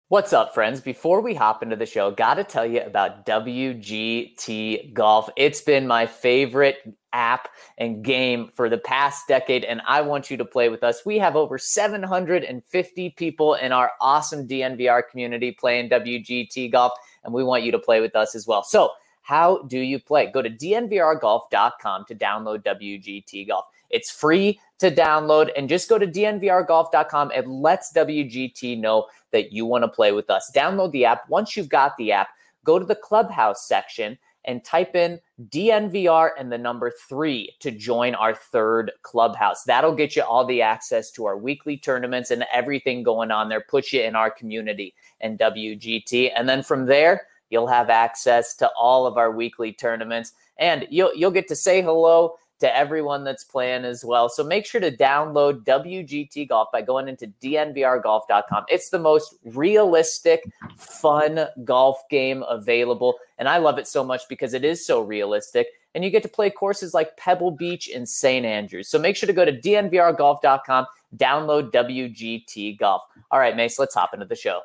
What's up, friends? Before we hop into the show, got to tell you about WGT Golf. It's been my favorite app and game for the past decade, and I want you to play with us. We have over 750 people in our awesome DNVR community playing WGT Golf, and we want you to play with us as well. So how do you play? Go to dnvrgolf.com to download WGT Golf. It's free to download, and just go to dnvrgolf.com and lets WGT know that you want to play with us. Download the app. Once you've got the app, go to the Clubhouse section and type in DNVR and the number 3 to join our third Clubhouse. That'll get you all the access to our weekly tournaments and everything going on there, put you in our community and WGT. And then from there, you'll have access to all of our weekly tournaments, and you'll get to say hello to everyone that's playing as well. So make sure to download WGT Golf by going into dnvrgolf.com. It's the most realistic, fun golf game available, and I love it so much because it is so realistic, and you get to play courses like Pebble Beach and St. Andrews. So make sure to go to dnvrgolf.com, download WGT Golf. All right, Mace, let's hop into the show.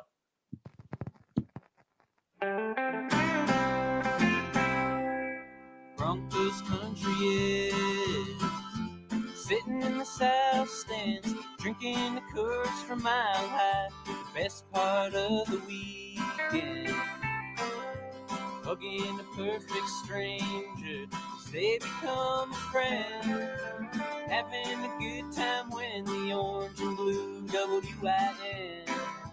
Broncos country is sitting in the south stands, drinking the Coors from Mile High, the best part of the weekend. Hugging a perfect stranger, they become a friend, having a good time when the orange and blue WIN.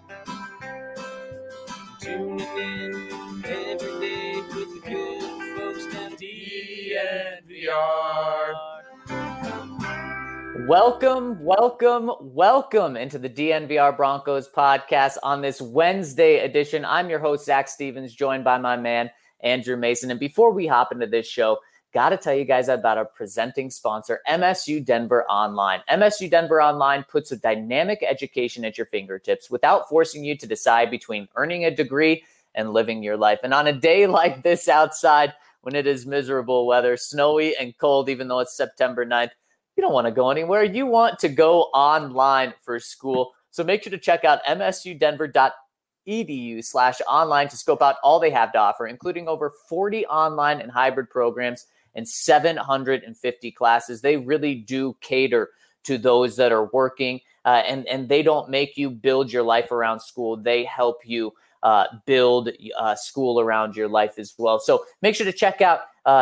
Tuning in every day with the good folks down DNVR. Welcome into the DNVR Broncos podcast on this Wednesday edition. I'm your host, Zach Stevens, joined by my man, Andrew Mason. And before we hop into this show, got to tell you guys about our presenting sponsor, MSU Denver Online. MSU Denver Online puts a dynamic education at your fingertips without forcing you to decide between earning a degree and living your life. And on a day like this outside, when it is miserable weather, snowy and cold, even though it's September 9th, you don't want to go anywhere. You want to go online for school. So make sure to check out msudenver.edu/online to scope out all they have to offer, including over 40 online and hybrid programs and 750 classes. They really do cater to those that are working, and they don't make you build your life around school. They help you build school around your life as well. So make sure to check out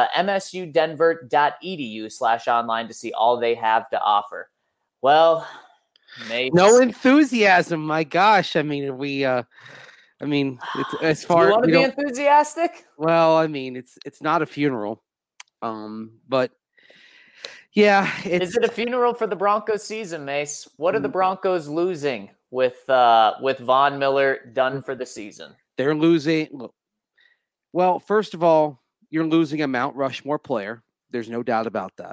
msudenver.edu/online to see all they have to offer. Well, Mace. No enthusiasm. My gosh. I mean, it's as far. You want to be enthusiastic? Well, I mean, it's not a funeral. But yeah, is it a funeral for the Broncos season, Mace? What are the Broncos losing with Von Miller done for the season? They're losing. Well, first of all, you're losing a Mount Rushmore player. There's no doubt about that.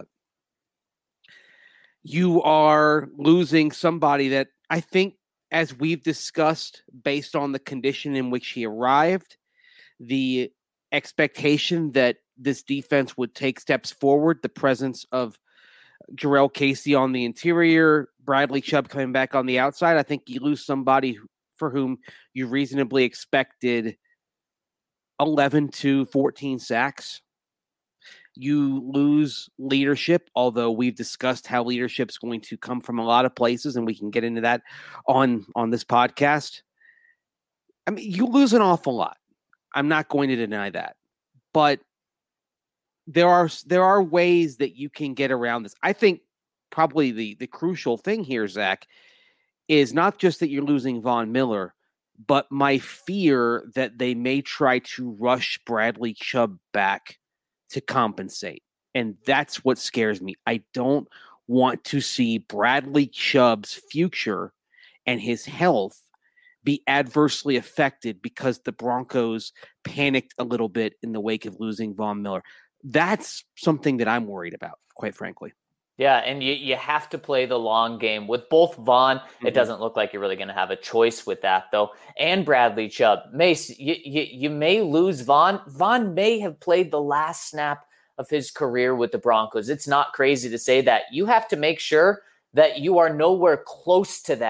You are losing somebody that I think, as we've discussed, based on the condition in which he arrived, the expectation that this defense would take steps forward, the presence of Jarrell Casey on the interior, Bradley Chubb coming back on the outside. I think you lose somebody for whom you reasonably expected 11 to 14 sacks. You lose leadership, although we've discussed how leadership is going to come from a lot of places, and we can get into that on this podcast. I mean, you lose an awful lot. I'm not going to deny that. But there are ways that you can get around this. I think probably the crucial thing here, Zach, is not just that you're losing Von Miller, but my fear that they may try to rush Bradley Chubb back to compensate. And that's what scares me. I don't want to see Bradley Chubb's future and his health be adversely affected because the Broncos panicked a little bit in the wake of losing Von Miller. That's something that I'm worried about, quite frankly. Yeah, and you have to play the long game. With both Von, it doesn't look like you're really going to have a choice with that, though, and Bradley Chubb. Mace, you may lose Von. Von may have played the last snap of his career with the Broncos. It's not crazy to say that. You have to make sure that you are nowhere close to that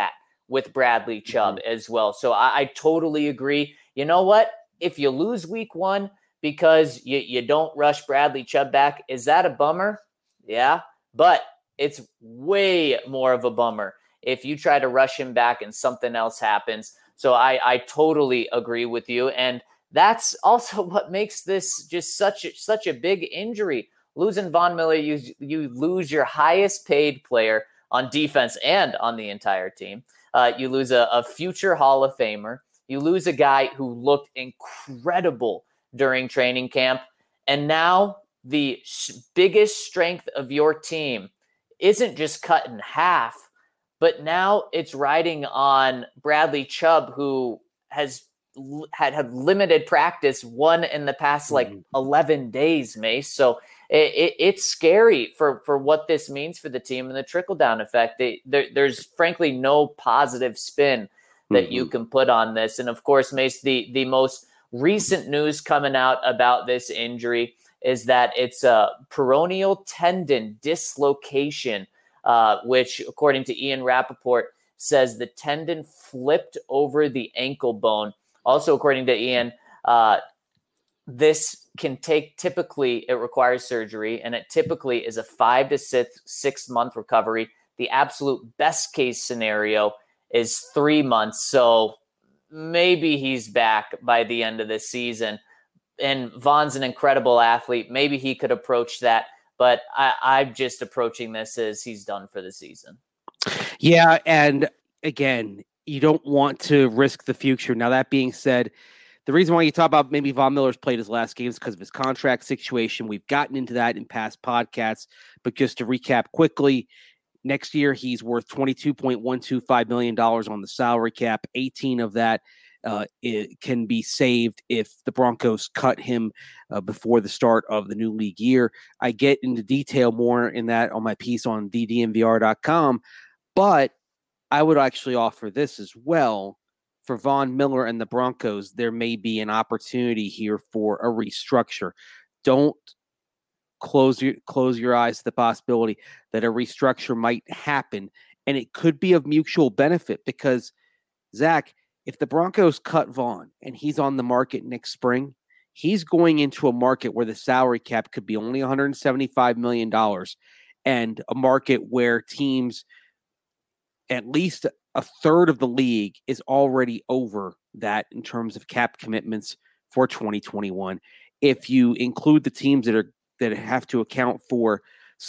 with Bradley Chubb as well. So I totally agree. You know what? If you lose week 1 because you don't rush Bradley Chubb back, is that a bummer? Yeah, but it's way more of a bummer if you try to rush him back and something else happens. So I totally agree with you. And that's also what makes this just such a big injury. Losing Von Miller, you lose your highest paid player on defense and on the entire team. You lose a future Hall of Famer. You lose a guy who looked incredible during training camp. And now the biggest strength of your team isn't just cut in half, but now it's riding on Bradley Chubb, who has had limited practice, one in the past 11 days, Mace. So it's scary for what this means for the team and the trickle-down effect. There's frankly no positive spin that you can put on this. And of course, Mace, the most recent news coming out about this injury is that it's a peroneal tendon dislocation, which, according to Ian Rappaport, says the tendon flipped over the ankle bone. Also, according to Ian, this can typically, it requires surgery, and it typically is a 5 to 6 month recovery. The absolute best case scenario is 3 months. So maybe he's back by the end of the season. And Von's an incredible athlete. Maybe he could approach that, but I'm just approaching this as he's done for the season. Yeah, and again, you don't want to risk the future. Now, that being said, the reason why you talk about maybe Von Miller's played his last game is because of his contract situation. We've gotten into that in past podcasts, but just to recap quickly, next year he's worth $22.125 million on the salary cap. 18 of that it can be saved if the Broncos cut him before the start of the new league year. I get into detail more in that on my piece on ddnvr.com, but I would actually offer this as well. For Von Miller and the Broncos, there may be an opportunity here for a restructure. Don't close your eyes to the possibility that a restructure might happen, and it could be of mutual benefit because, Zach, if the Broncos cut Von and he's on the market next spring, he's going into a market where the salary cap could be only $175 million, and a market where teams, at least a third of the league, is already over that in terms of cap commitments for 2021. If you include the teams that have to account for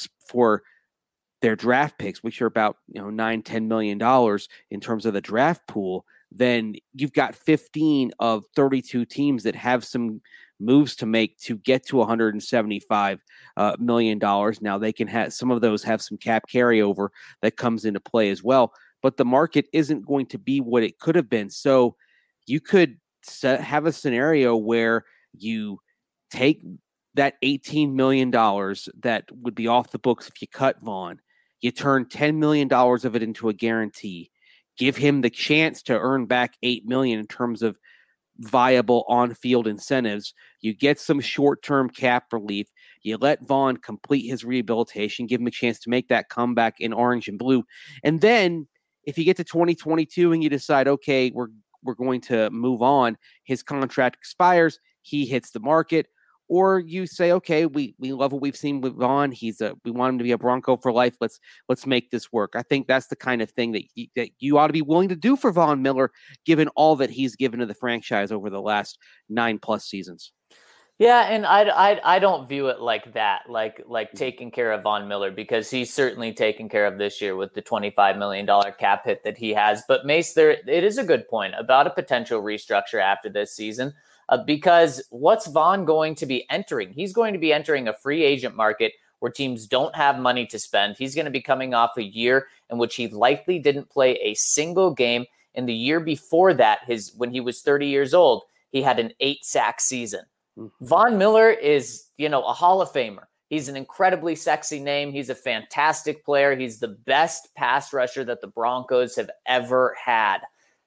their draft picks, which are about $9-10 million in terms of the draft pool, then you've got 15 of 32 teams that have some moves to make to get to $175 million. Now, they can have some of those have some cap carryover that comes into play as well, but the market isn't going to be what it could have been. So you could have a scenario where you take that $18 million that would be off the books if you cut Von, you turn $10 million of it into a guarantee, give him the chance to earn back $8 million in terms of viable on-field incentives. You get some short-term cap relief. You let Von complete his rehabilitation, give him a chance to make that comeback in orange and blue. And then if you get to 2022 and you decide, okay, we're going to move on, his contract expires, he hits the market, or you say, okay, we love what we've seen with Von. We want him to be a Bronco for life. Let's make this work. I think that's the kind of thing that you ought to be willing to do for Von Miller, given all that he's given to the franchise over the last 9+ seasons. Yeah, and I don't view it like that, like taking care of Von Miller, because he's certainly taken care of this year with the $25 million cap hit that he has. But Mace, it is a good point about a potential restructure after this season. Because what's Von going to be entering? He's going to be entering a free agent market where teams don't have money to spend. He's going to be coming off a year in which he likely didn't play a single game. In the year before that, when he was 30 years old, he had an 8-sack season. Von Miller is, a Hall of Famer. He's an incredibly sexy name. He's a fantastic player. He's the best pass rusher that the Broncos have ever had.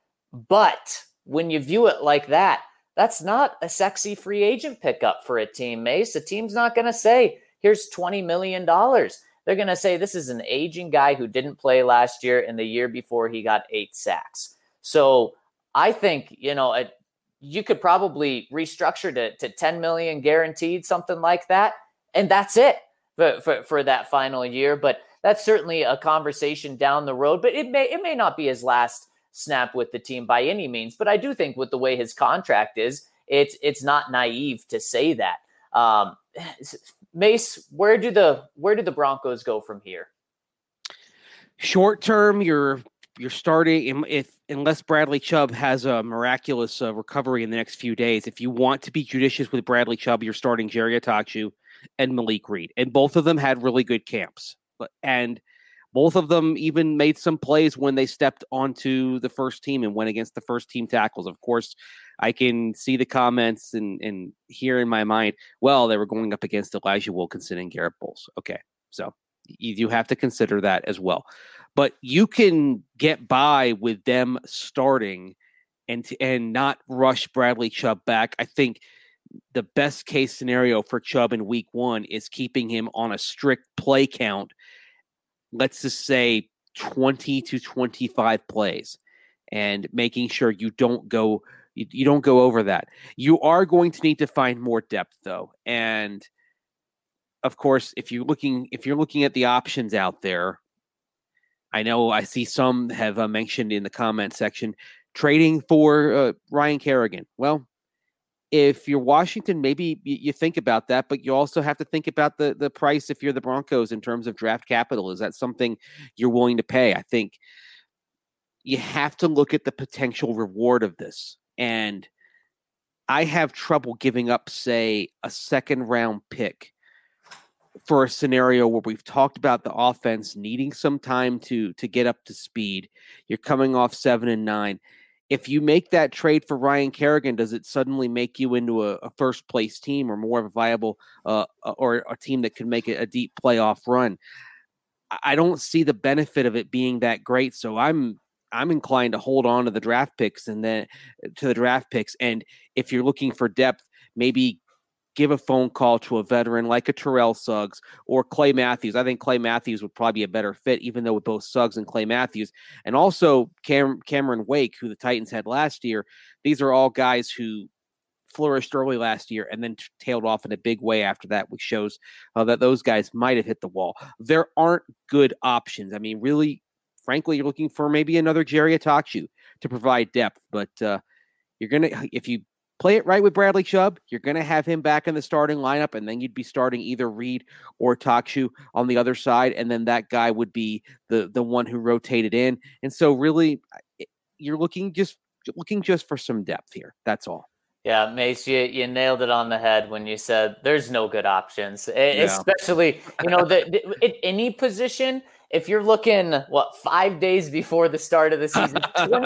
But when you view it like that, that's not a sexy free agent pickup for a team, Mace. A team's not going to say, here's $20 million. they're going to say this is an aging guy who didn't play last year, and the year before he got 8 sacks. So I think, you could probably restructure to 10 million guaranteed, something like that. And that's it for that final year. But that's certainly a conversation down the road, but it may not be his last snap with the team by any means. But I do think with the way his contract is, it's not naive to say that. Mace, where do the Broncos go from here? Short term, you're starting unless Bradley Chubb has a miraculous recovery in the next few days. If you want to be judicious with Bradley Chubb, you're starting Jerry Attaochu and Malik Reed, and both of them had really good camps, and both of them even made some plays when they stepped onto the first team and went against the first team tackles. Of course, I can see the comments and hear in my mind, well, they were going up against Elijah Wilkinson and Garrett Bowles. Okay, so you have to consider that as well. But you can get by with them starting and not rush Bradley Chubb back. I think the best case scenario for Chubb in week 1 is keeping him on a strict play count. Let's just say 20 to 25 plays, and making sure you don't go over that. You are going to need to find more depth though. And of course, if you're looking at the options out there, I know I see some have mentioned in the comment section trading for Ryan Kerrigan. Well, if you're Washington, maybe you think about that, but you also have to think about the price if you're the Broncos in terms of draft capital. Is that something you're willing to pay? I think you have to look at the potential reward of this. And I have trouble giving up, say, a second-round pick for a scenario where we've talked about the offense needing some time to get up to speed. You're coming off 7-9. If you make that trade for Ryan Kerrigan, does it suddenly make you into a first place team or more of a viable or a team that can make a deep playoff run? I don't see the benefit of it being that great. So I'm inclined to hold on to the draft picks and then to the draft picks. And if you're looking for depth, maybe give a phone call to a veteran like a Terrell Suggs or Clay Matthews. I think Clay Matthews would probably be a better fit, even though with both Suggs and Clay Matthews, and also Cameron Wake, who the Titans had last year. These are all guys who flourished early last year and then tailed off in a big way after that, which shows that those guys might have hit the wall. There aren't good options. I mean, really, frankly, you're looking for maybe another Jerry Attaochu to provide depth, but you're going to, if you play it right with Bradley Chubb, you're going to have him back in the starting lineup, and then you'd be starting either Reed or Attaochu on the other side, and then that guy would be the one who rotated in. And so really, you're looking just for some depth here. That's all. Yeah, Mace, you nailed it on the head when you said there's no good options, especially, at any position. If you're looking, 5 days before the start of the season,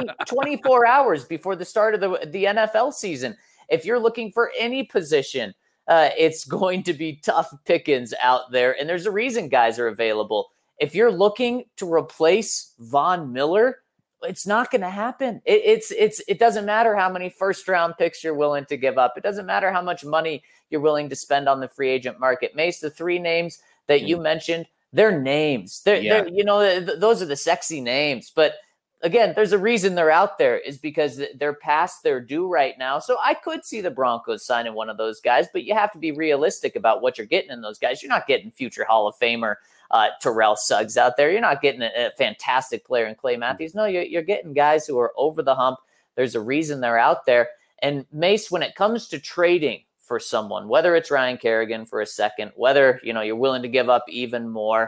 24 hours before the start of the NFL season, if you're looking for any position, it's going to be tough pickings out there. And there's a reason guys are available. If you're looking to replace Von Miller, it's not going to happen. It doesn't matter how many first round picks you're willing to give up. It doesn't matter how much money you're willing to spend on the free agent market. Mace, the 3 names that you mentioned, they're names. Those are the sexy names. But again, there's a reason they're out there, is because they're past their due right now. So I could see the Broncos signing one of those guys, but you have to be realistic about what you're getting in those guys. You're not getting future Hall of Famer Terrell Suggs out there. You're not getting a fantastic player in Clay Matthews. No, you're getting guys who are over the hump. There's a reason they're out there. And Mace, when it comes to trading for someone, whether it's Ryan Kerrigan for a second, whether you're willing to give up even more,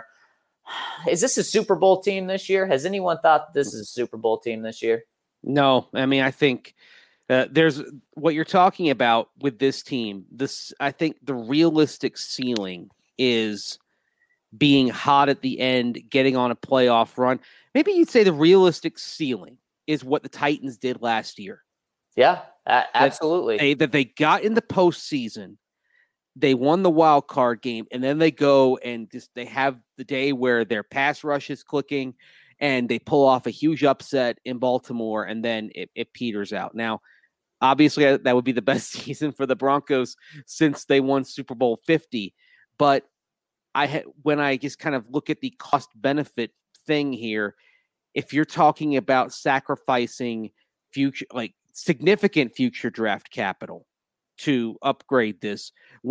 is this a Super Bowl team this year? Has anyone thought this is a Super Bowl team this year? No, I mean, I think there's what you're talking about with this team. I think the realistic ceiling is being hot at the end, getting on a playoff run. Maybe you'd say the realistic ceiling is what the Titans did last year. Yeah, absolutely. That they got in the postseason, they won the wild card game, and then they go and they have the day where their pass rush is clicking, and they pull off a huge upset in Baltimore, and then it peters out. Now, obviously, that would be the best season for the Broncos since they won Super Bowl 50, but when I just kind of look at the cost benefit thing here, if you're talking about sacrificing significant future draft capital to upgrade this,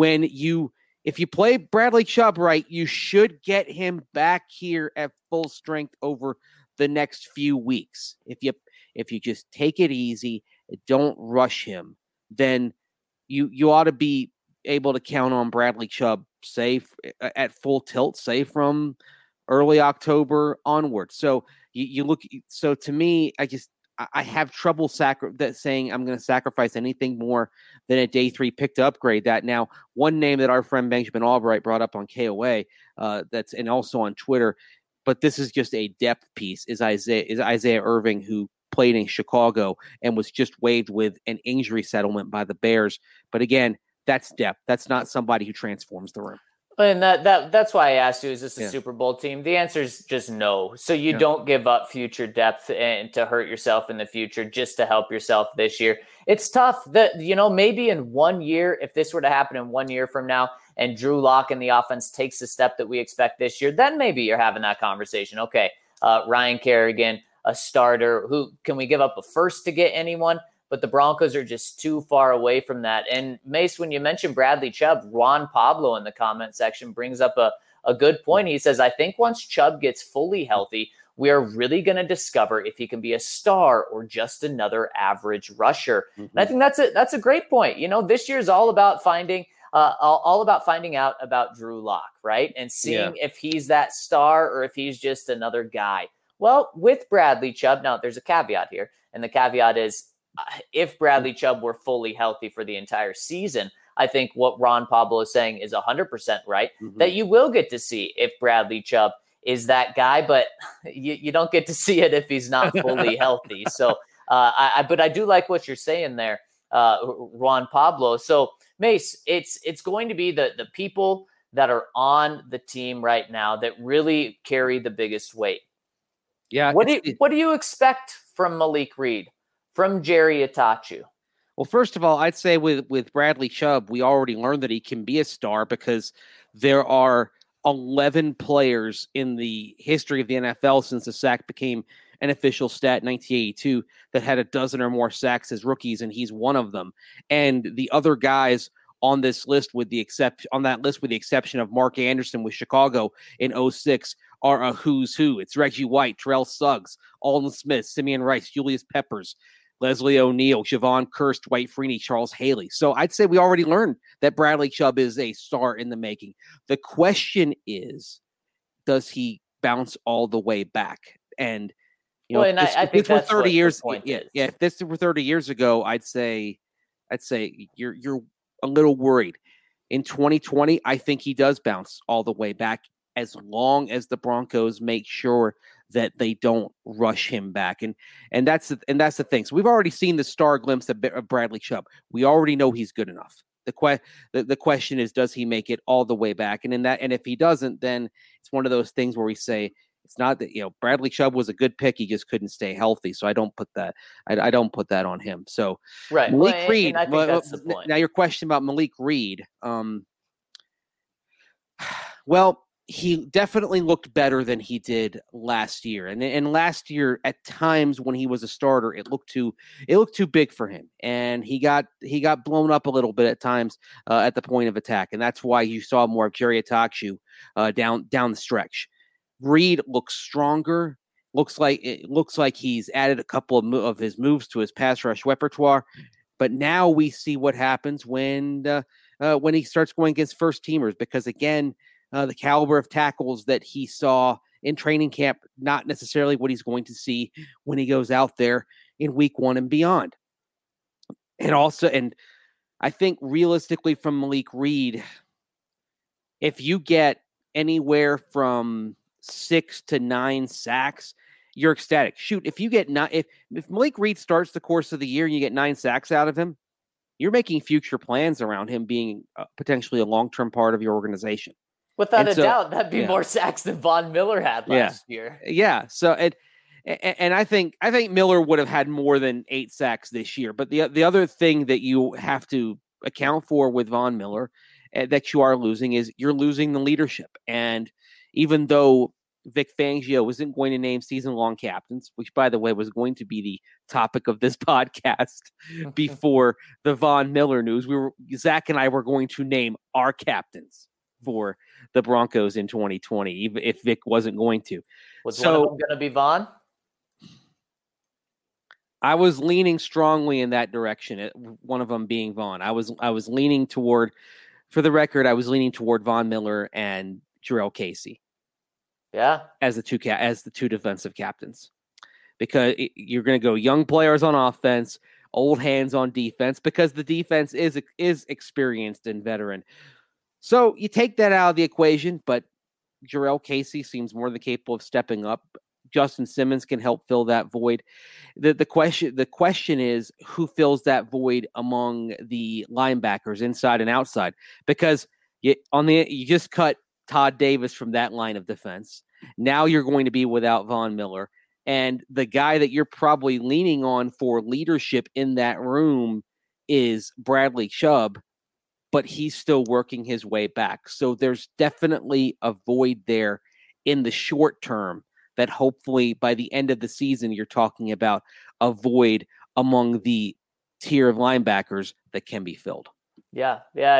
if you play Bradley Chubb right, you should get him back here at full strength over the next few weeks. If you just take it easy, don't rush him, then you ought to be able to count on Bradley Chubb safe at full tilt, say from early October onward. So you look. So to me, I have trouble saying I'm going to sacrifice anything more than a day 3 pick to upgrade that. Now, one name that our friend Benjamin Albright brought up on KOA, and also on Twitter, but this is just a depth piece, is Isaiah Irving, who played in Chicago and was just waived with an injury settlement by the Bears. But again, that's depth. That's not somebody who transforms the room. And that's why I asked you, is this a Super Bowl team? The answer is just no. So you don't give up future depth and to hurt yourself in the future just to help yourself this year. It's tough that, maybe in 1 year, if this were to happen in 1 year from now and Drew Lock and the offense takes the step that we expect this year, then maybe you're having that conversation. Okay, Ryan Kerrigan, a starter. Who can we give up a first to get anyone? But the Broncos are just too far away from that. And Mace, when you mentioned Bradley Chubb, Juan Pablo in the comment section brings up a good point. He says, I think once Chubb gets fully healthy, we are really going to discover if he can be a star or just another average rusher. Mm-hmm. And I think that's a great point. This year's all about finding out about Drew Lock, right? And seeing if he's that star or if he's just another guy. Well, with Bradley Chubb, now there's a caveat here. And the caveat is, if Bradley Chubb were fully healthy for the entire season, I think what Ron Pablo is saying is 100% right, that you will get to see if Bradley Chubb is that guy, but you don't get to see it if he's not fully healthy. So, but I do like what you're saying there, Ron Pablo. So, Mace, it's going to be the people that are on the team right now that really carry the biggest weight. Yeah. What do you expect from Malik Reed? From Jerry Itachu? Well, first of all, I'd say with Bradley Chubb, we already learned that he can be a star because there are 11 players in the history of the NFL since the sack became an official stat in 1982 that had a dozen or more sacks as rookies, and he's one of them. And the other guys on this list, with the exception of Mark Anderson with Chicago in 2006, are a who's who. It's Reggie White, Terrell Suggs, Alden Smith, Simeon Rice, Julius Peppers, Leslie O'Neal, Javon Kearse, Dwight Freeney, Charles Haley. So I'd say we already learned that Bradley Chubb is a star in the making. The question is, does he bounce all the way back? And I think that's 30 years. If this were 30 years ago, I'd say you're a little worried. In 2020, I think he does bounce all the way back, as long as the Broncos make sure that they don't rush him back. And that's the thing. So we've already seen the star glimpse of Bradley Chubb. We already know he's good enough. The question is, does he make it all the way back? And if he doesn't, then it's one of those things where we say it's not that, Bradley Chubb was a good pick. He just couldn't stay healthy. So I don't put that on him. So right. Malik Reed. I think that's the point. Now your question about Malik Reed. Well, he definitely looked better than he did last year. And last year, at times when he was a starter, it looked too big for him. And he got blown up a little bit at times at the point of attack. And that's why you saw more of Jerry Itachu down the stretch. Reed looks stronger. Looks like he's added a couple of his moves to his pass rush repertoire. But now we see what happens when he starts going against first teamers, because again, the caliber of tackles that he saw in training camp, not necessarily what he's going to see when he goes out there in week 1 and beyond. And I think realistically from Malik Reed, if you get anywhere from 6 to 9 sacks, you're ecstatic. Shoot, if Malik Reed starts the course of the year and you get 9 sacks out of him, you're making future plans around him being potentially a long-term part of your organization. Without a doubt, that'd be more sacks than Von Miller had last year. Yeah. So and I think Miller would have had more than 8 sacks this year. But the other thing that you have to account for with Von Miller, that you are losing is you're losing the leadership. And even though Vic Fangio isn't going to name season-long captains, which, by the way, was going to be the topic of this podcast before the Von Miller news, Zach and I were going to name our captains for the Broncos in 2020, even if Vic wasn't going to. Was one of them going to be Von? I was leaning strongly in that direction. One of them being Von. I was leaning toward, for the record, I was leaning toward Von Miller and Jurrell Casey. Yeah, as the two defensive captains, because you're going to go young players on offense, old hands on defense, because the defense is experienced and veteran. So you take that out of the equation, but Jurrell Casey seems more than capable of stepping up. Justin Simmons can help fill that void. The question is who fills that void among the linebackers inside and outside, because you just cut Todd Davis from that line of defense. Now you're going to be without Von Miller. And the guy that you're probably leaning on for leadership in that room is Bradley Chubb, but he's still working his way back. So there's definitely a void there in the short term that hopefully by the end of the season, you're talking about a void among the tier of linebackers that can be filled. Yeah,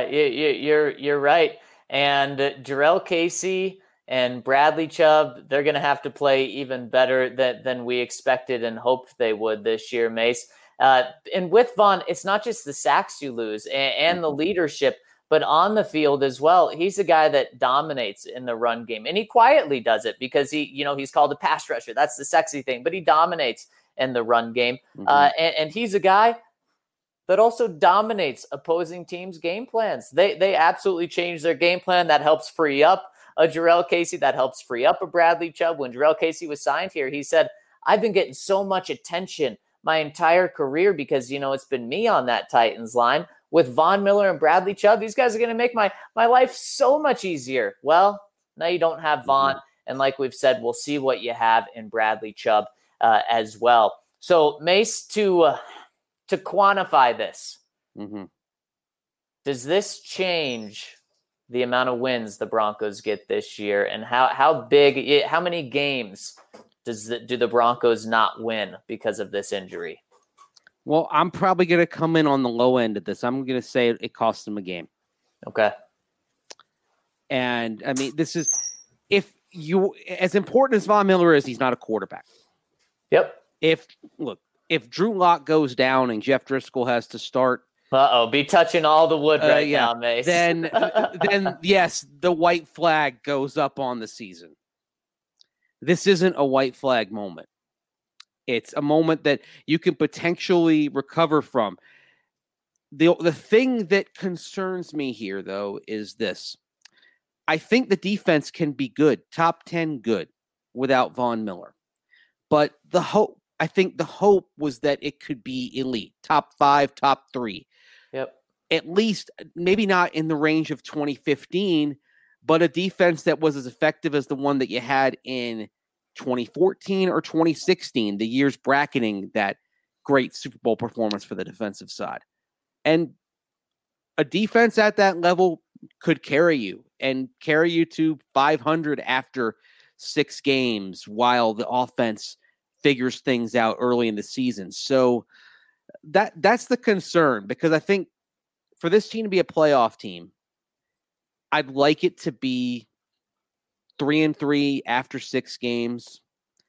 you're right. And Jurrell Casey and Bradley Chubb, they're going to have to play even better than we expected and hoped they would this year, Mace. And with Von, it's not just the sacks you lose and the leadership, but on the field as well. He's a guy that dominates in the run game, and he quietly does it because he's called a pass rusher. That's the sexy thing, but he dominates in the run game. And he's a guy that also dominates opposing teams' game plans. They absolutely change their game plan. That helps free up a Jurrell Casey. That helps free up a Bradley Chubb. When Jurrell Casey was signed here, he said, I've been getting so much attention my entire career because, it's been me on that Titans line. With Von Miller and Bradley Chubb, these guys are going to make my life so much easier. Well, now you don't have Von. And like we've said, we'll see what you have in Bradley Chubb as well. So, Mace, to quantify this, does this change the amount of wins the Broncos get this year? And how many games do the Broncos not win because of this injury? Well, I'm probably going to come in on the low end of this. I'm going to say it costs them a game. Okay. And, I mean, this is – as important as Von Miller is, he's not a quarterback. Yep. If Drew Lock goes down and Jeff Driscoll has to start – be touching all the wood now, Mace. Then yes, the white flag goes up on the season. This isn't a white flag moment. It's a moment that you can potentially recover from. The thing that concerns me here, though, is this. I think the defense can be good, top 10 good, without Von Miller. But I think the hope was that it could be elite, top 5, top 3. Yep. At least, maybe not in the range of 2015, but a defense that was as effective as the one that you had in 2014 or 2016, the years bracketing that great Super Bowl performance for the defensive side. And a defense at that level could carry you to 500 after 6 games while the offense figures things out early in the season. So that's the concern, because I think for this team to be a playoff team, I'd like it to be 3-3 after 6 games,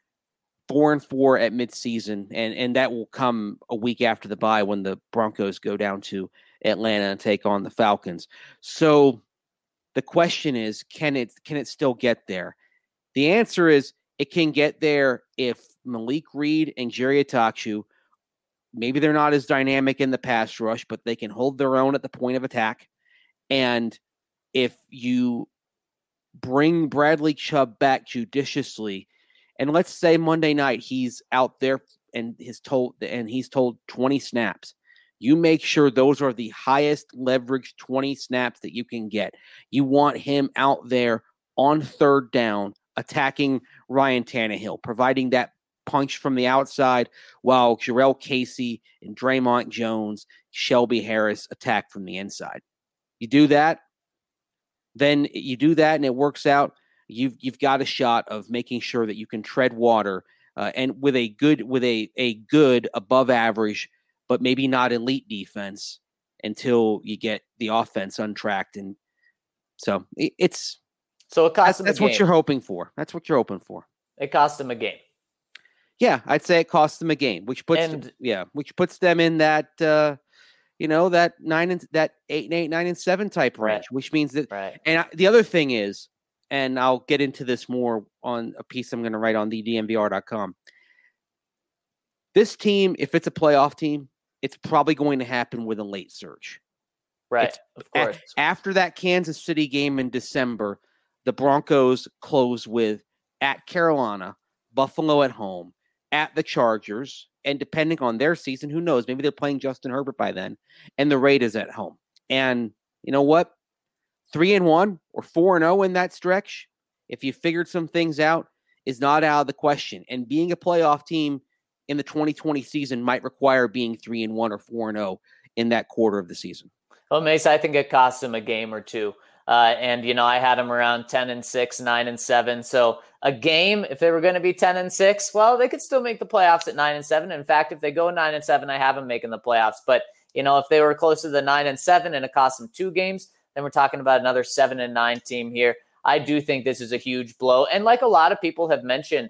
4-4 at midseason, and that will come a week after the bye when the Broncos go down to Atlanta and take on the Falcons. So the question is, can it still get there? The answer is it can get there if Malik Reed and Jerry Attaochu, maybe they're not as dynamic in the pass rush, but they can hold their own at the point of attack. And if you bring Bradley Chubb back judiciously, and let's say Monday night he's out there and he's told 20 snaps. You make sure those are the highest leverage 20 snaps that you can get. You want him out there on third down, attacking Ryan Tannehill, providing that punch from the outside, while Jurrell Casey and Draymond Jones, Shelby Harris attack from the inside. You do that, then you do that and it works out. You've got a shot of making sure that you can tread water and with a good above average, but maybe not elite defense until you get the offense untracked. And so it cost them that's what you're hoping for. That's what you're hoping for. It cost them a game. Yeah, I'd say it cost them a game, which puts them in that that 8-8, 9-7 type range, which means that. Right. And the other thing is, and I'll get into this more on a piece I'm going to write on the DNVR.com. This team, if it's a playoff team, it's probably going to happen with a late surge. Right, of course. After that Kansas City game in December, the Broncos close with at Carolina, Buffalo at home, at the Chargers, and depending on their season, who knows? Maybe they're playing Justin Herbert by then, and the Raiders at home. And you know what? 3-1 or 4-0 in that stretch, if you figured some things out, is not out of the question. And being a playoff team in the 2020 season might require being 3-1 or 4-0 in that quarter of the season. Well, Mace, I think it cost them a game or two. And I had them around 10-6, 9-7. So a game, if they were going to be 10-6, well, they could still make the playoffs at 9-7. In fact, if they go 9-7, I have them making the playoffs. But, if they were closer to the 9-7 and it cost them 2 games, then we're talking about another 7-9 team here. I do think this is a huge blow. And like a lot of people have mentioned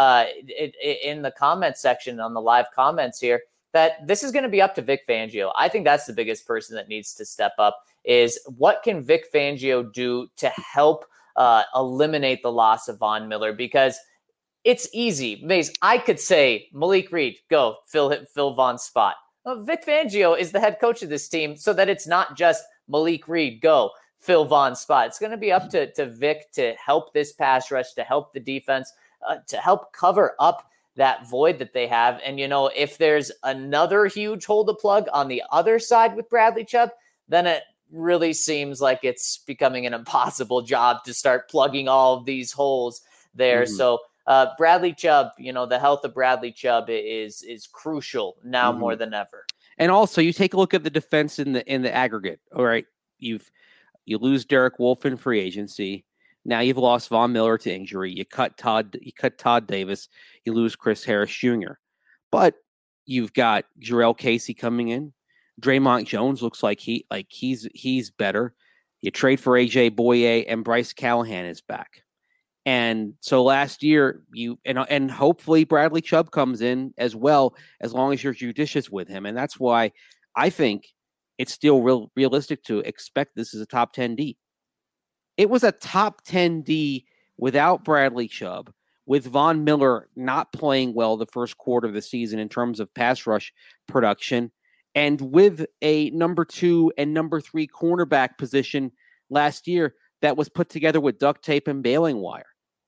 in the comment section on the live comments here, that this is going to be up to Vic Fangio. I think that's the biggest person that needs to step up is what can Vic Fangio do to help eliminate the loss of Von Miller? Because it's easy. Mace, I could say, Malik Reed, go, fill Von's spot. Well, Vic Fangio is the head coach of this team so that it's not just Malik Reed, go, fill Von's spot. It's going to be up to Vic to help this pass rush, to help the defense, to help cover up that void that they have. And, if there's another huge hole to plug on the other side with Bradley Chubb, then it really seems like it's becoming an impossible job to start plugging all of these holes there. Mm-hmm. So Bradley Chubb, the health of Bradley Chubb is crucial now more than ever. And also you take a look at the defense in the aggregate. All right. You lose Derek Wolfe in free agency. Now you've lost Von Miller to injury. You cut Todd Davis. You lose Chris Harris Jr. But you've got Jarrell Casey coming in. Draymond Jones looks like he's better. You trade for AJ Boye and Bryce Callahan is back. And so last year and hopefully Bradley Chubb comes in as well, as long as you're judicious with him. And that's why I think it's still realistic to expect this is a top 10 D. It was a top 10 D without Bradley Chubb, with Von Miller not playing well the first quarter of the season in terms of pass rush production, and with a number 2 and number 3 cornerback position last year that was put together with duct tape and baling wire.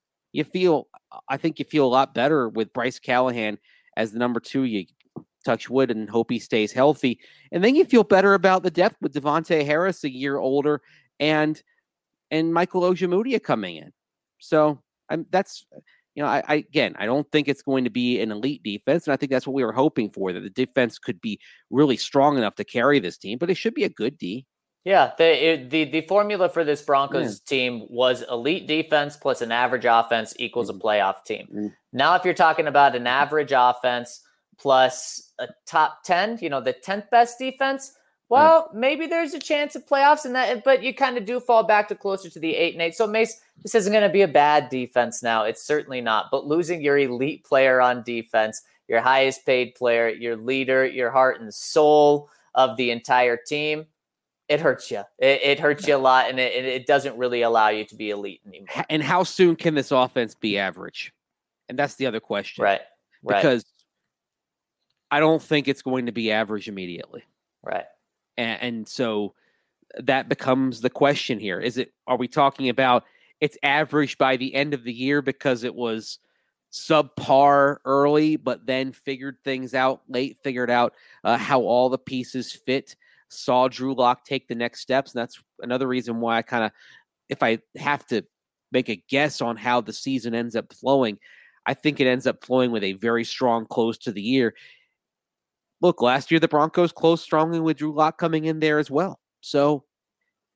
I think you feel a lot better with Bryce Callahan as the number 2. You touch wood and hope he stays healthy. And then you feel better about the depth with Devontae Harris a year older and Michael Ojemudia coming in. So I don't think it's going to be an elite defense. And I think that's what we were hoping for, that the defense could be really strong enough to carry this team, but it should be a good D. Yeah, the formula for this Broncos team was elite defense plus an average offense equals a playoff team. Mm-hmm. Now, if you're talking about an average offense plus a top 10, the 10th best defense, well, maybe there's a chance of playoffs in that, but you kind of do fall back to closer to the 8-8. So, Mace, this isn't going to be a bad defense now. It's certainly not. But losing your elite player on defense, your highest paid player, your leader, your heart and soul of the entire team, it hurts you. It hurts you a lot, and it doesn't really allow you to be elite anymore. And how soon can this offense be average? And that's the other question. Right. Because I don't think it's going to be average immediately. Right. And so that becomes the question here. Are we talking about it's average by the end of the year because it was subpar early, but then figured things out late, figured out how all the pieces fit, saw Drew Lock take the next steps. And that's another reason why if I have to make a guess on how the season ends up flowing, I think it ends up flowing with a very strong close to the year. Look, last year the Broncos closed strongly with Drew Lock coming in there as well. So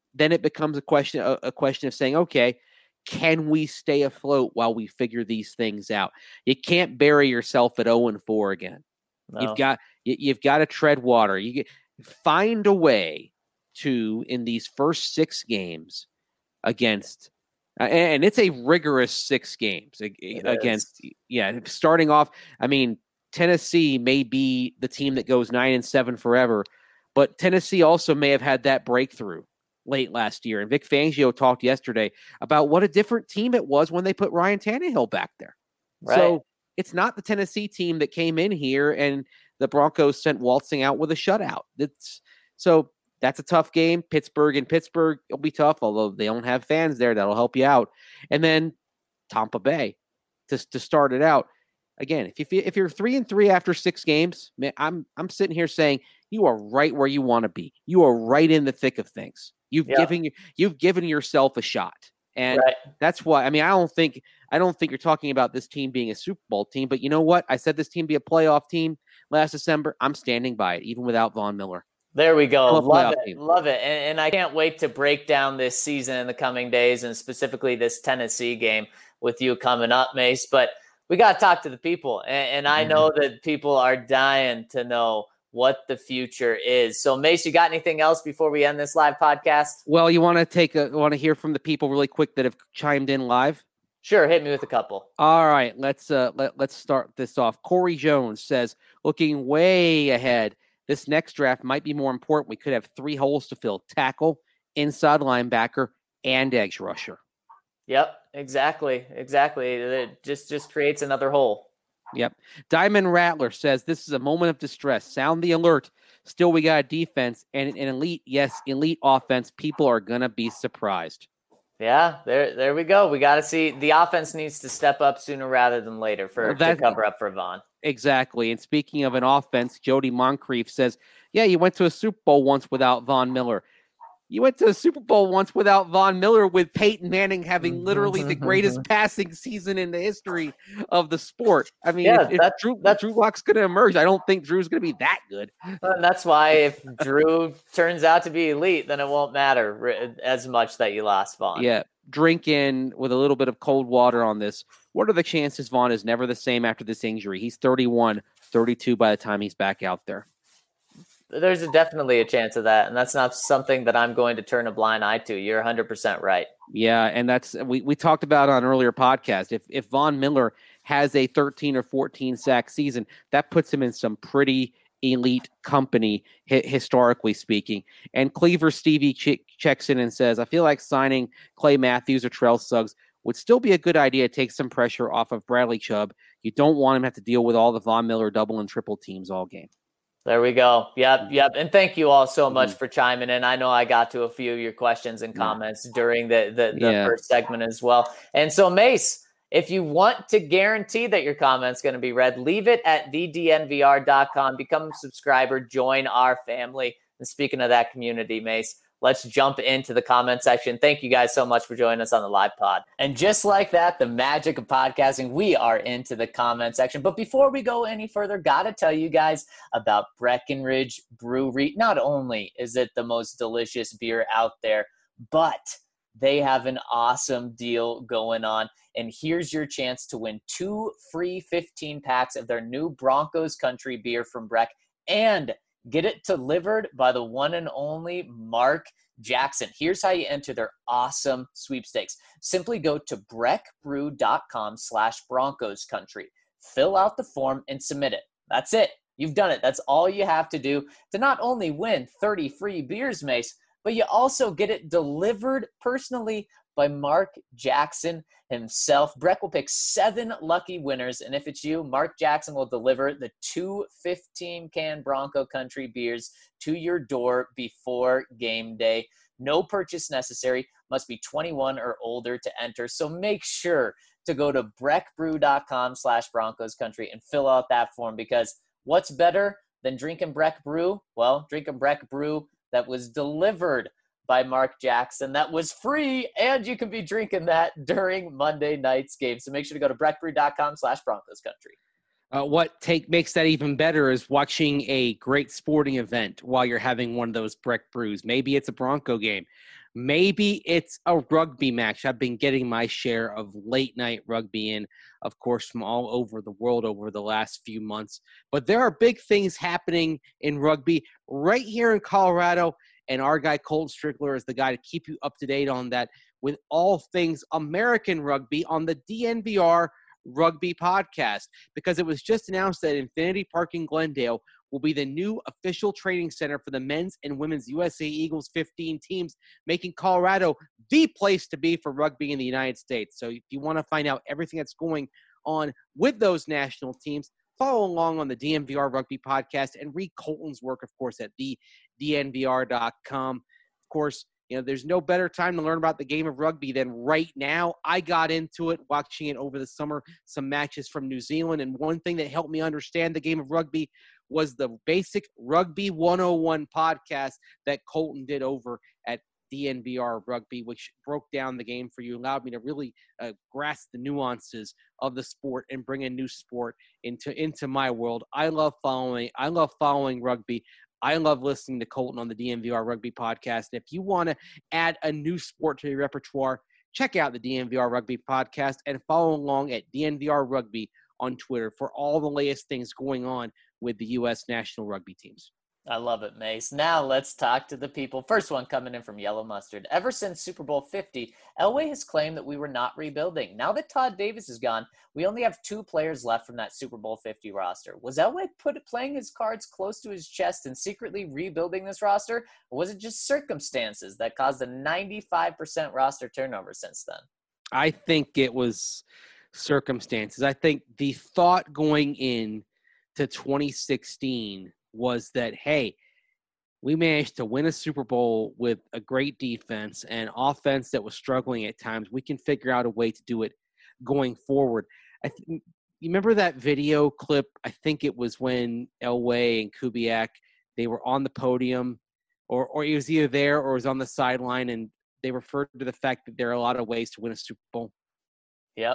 then it becomes a question of saying, okay, can we stay afloat while we figure these things out? You can't bury yourself at 0-4 again. No. You've got to tread water. You find a way to, in these first 6 games against, and it's a rigorous 6 games against. Yeah, starting off. I mean, Tennessee may be the team that goes 9-7 forever, but Tennessee also may have had that breakthrough late last year. And Vic Fangio talked yesterday about what a different team it was when they put Ryan Tannehill back there. Right. So it's not the Tennessee team that came in here and the Broncos sent waltzing out with a shutout. That's a tough game. Pittsburgh will be tough, although they don't have fans there. That'll help you out. And then Tampa Bay to start it out. Again, if you're 3-3 after 6 games, man, I'm sitting here saying you are right where you want to be. You are right in the thick of things. You've given yourself a shot, and that's why. I mean, I don't think you're talking about this team being a Super Bowl team, but you know what? I said this team be a playoff team last December. I'm standing by it, even without Von Miller. There we go. Love it. And I can't wait to break down this season in the coming days, and specifically this Tennessee game with you coming up, Mace. But we got to talk to the people, and I know that people are dying to know what the future is. So, Mace, you got anything else before we end this live podcast? Well, you want to hear from the people really quick that have chimed in live? Sure, hit me with a couple. All right, let's start this off. Corey Jones says, looking way ahead, this next draft might be more important. We could have 3 holes to fill: tackle, inside linebacker, and edge rusher. Yep, exactly. It just creates another hole. Yep. Diamond Rattler says, this is a moment of distress. Sound the alert. Still, we got a defense and an elite offense. People are going to be surprised. Yeah, there we go. We got to see. The offense needs to step up sooner rather than later to cover up for Von. Exactly. And speaking of an offense, Jody Moncrief says, yeah, you went to a Super Bowl once without Von Miller. You went to a Super Bowl once without Von Miller, with Peyton Manning having literally the greatest passing season in the history of the sport. I mean, if Drew Lock's going to emerge, I don't think Drew's going to be that good. And that's why if Drew turns out to be elite, then it won't matter as much that you lost Von. Yeah. Drink in with a little bit of cold water on this. What are the chances Von is never the same after this injury? He's 31, 32 by the time he's back out there. There's definitely a chance of that, and that's not something that I'm going to turn a blind eye to. You're 100% right. Yeah, and that's we talked about on an earlier podcast. If Von Miller has a 13 or 14 sack season, that puts him in some pretty elite company, historically speaking. And Cleaver Stevie checks in and says, I feel like signing Clay Matthews or Terrell Suggs would still be a good idea to take some pressure off of Bradley Chubb. You don't want him to have to deal with all the Von Miller double and triple teams all game. There we go. Yep. And thank you all so much for chiming in. I know I got to a few of your questions and comments during the first segment as well. And so, Mace, if you want to guarantee that your comment's going to be read, leave it at thednvr.com. Become a subscriber. Join our family. And speaking of that community, Mace, let's jump into the comment section. Thank you guys so much for joining us on the live pod. And just like that, the magic of podcasting, we are into the comment section. But before we go any further, got to tell you guys about Breckenridge Brewery. Not only is it the most delicious beer out there, but they have an awesome deal going on. And here's your chance to win 2 free 15 packs of their new Broncos Country beer from Breck, and get it delivered by the one and only Mark Jackson. Here's how you enter their awesome sweepstakes. Simply go to breckbrew.com/Broncos Country. Fill out the form and submit it. That's it. You've done it. That's all you have to do to not only win 30 free beers, Mace, but you also get it delivered personally by Mark Jackson himself. Breck will pick 7 lucky winners, and if it's you, Mark Jackson will deliver the 2 15-can Bronco Country beers to your door before game day. No purchase necessary. Must be 21 or older to enter. So make sure to go to breckbrew.com/Broncos Country and fill out that form, because what's better than drinking Breck Brew? Well, drinking Breck Brew that was delivered by Mark Jackson, that was free, and you can be drinking that during Monday night's game. So make sure to go to breckbrew.com/Broncos Country. Makes that even better is watching a great sporting event while you're having one of those Breck brews. Maybe it's a Bronco game. Maybe it's a rugby match. I've been getting my share of late night rugby in, of course, from all over the world over the last few months. But there are big things happening in rugby right here in Colorado. And our guy, Colton Strickler, is the guy to keep you up to date on that with all things American rugby on the DNVR Rugby Podcast, because it was just announced that Infinity Park in Glendale will be the new official training center for the men's and women's USA Eagles 15 teams, making Colorado the place to be for rugby in the United States. So if you want to find out everything that's going on with those national teams, follow along on the DNVR Rugby Podcast and read Colton's work, of course, at thednvr.com. Of course, there's no better time to learn about the game of rugby than right now. I got into it watching it over the summer, some matches from New Zealand. And one thing that helped me understand the game of rugby was the basic Rugby 101 podcast that Colton did over at DNVR Rugby, which broke down the game for you, allowed me to really grasp the nuances of the sport and bring a new sport into my world. I love following rugby. I love listening to Colton on the DNVR Rugby Podcast. And if you want to add a new sport to your repertoire, check out the DNVR Rugby Podcast and follow along at DNVR Rugby on Twitter for all the latest things going on with the U.S. national rugby teams. I love it, Mace. Now let's talk to the people. First one coming in from Yellow Mustard. Ever since Super Bowl 50, Elway has claimed that we were not rebuilding. Now that Todd Davis is gone, we only have 2 players left from that Super Bowl 50 roster. Was Elway playing his cards close to his chest and secretly rebuilding this roster? Or was it just circumstances that caused a 95% roster turnover since then? I think it was circumstances. I think the thought going in to 2016 was that, hey, we managed to win a Super Bowl with a great defense and offense that was struggling at times. We can figure out a way to do it going forward. You remember that video clip? I think it was when Elway and Kubiak, they were on the podium, or he was either there or was on the sideline, and they referred to the fact that there are a lot of ways to win a Super Bowl. Yep.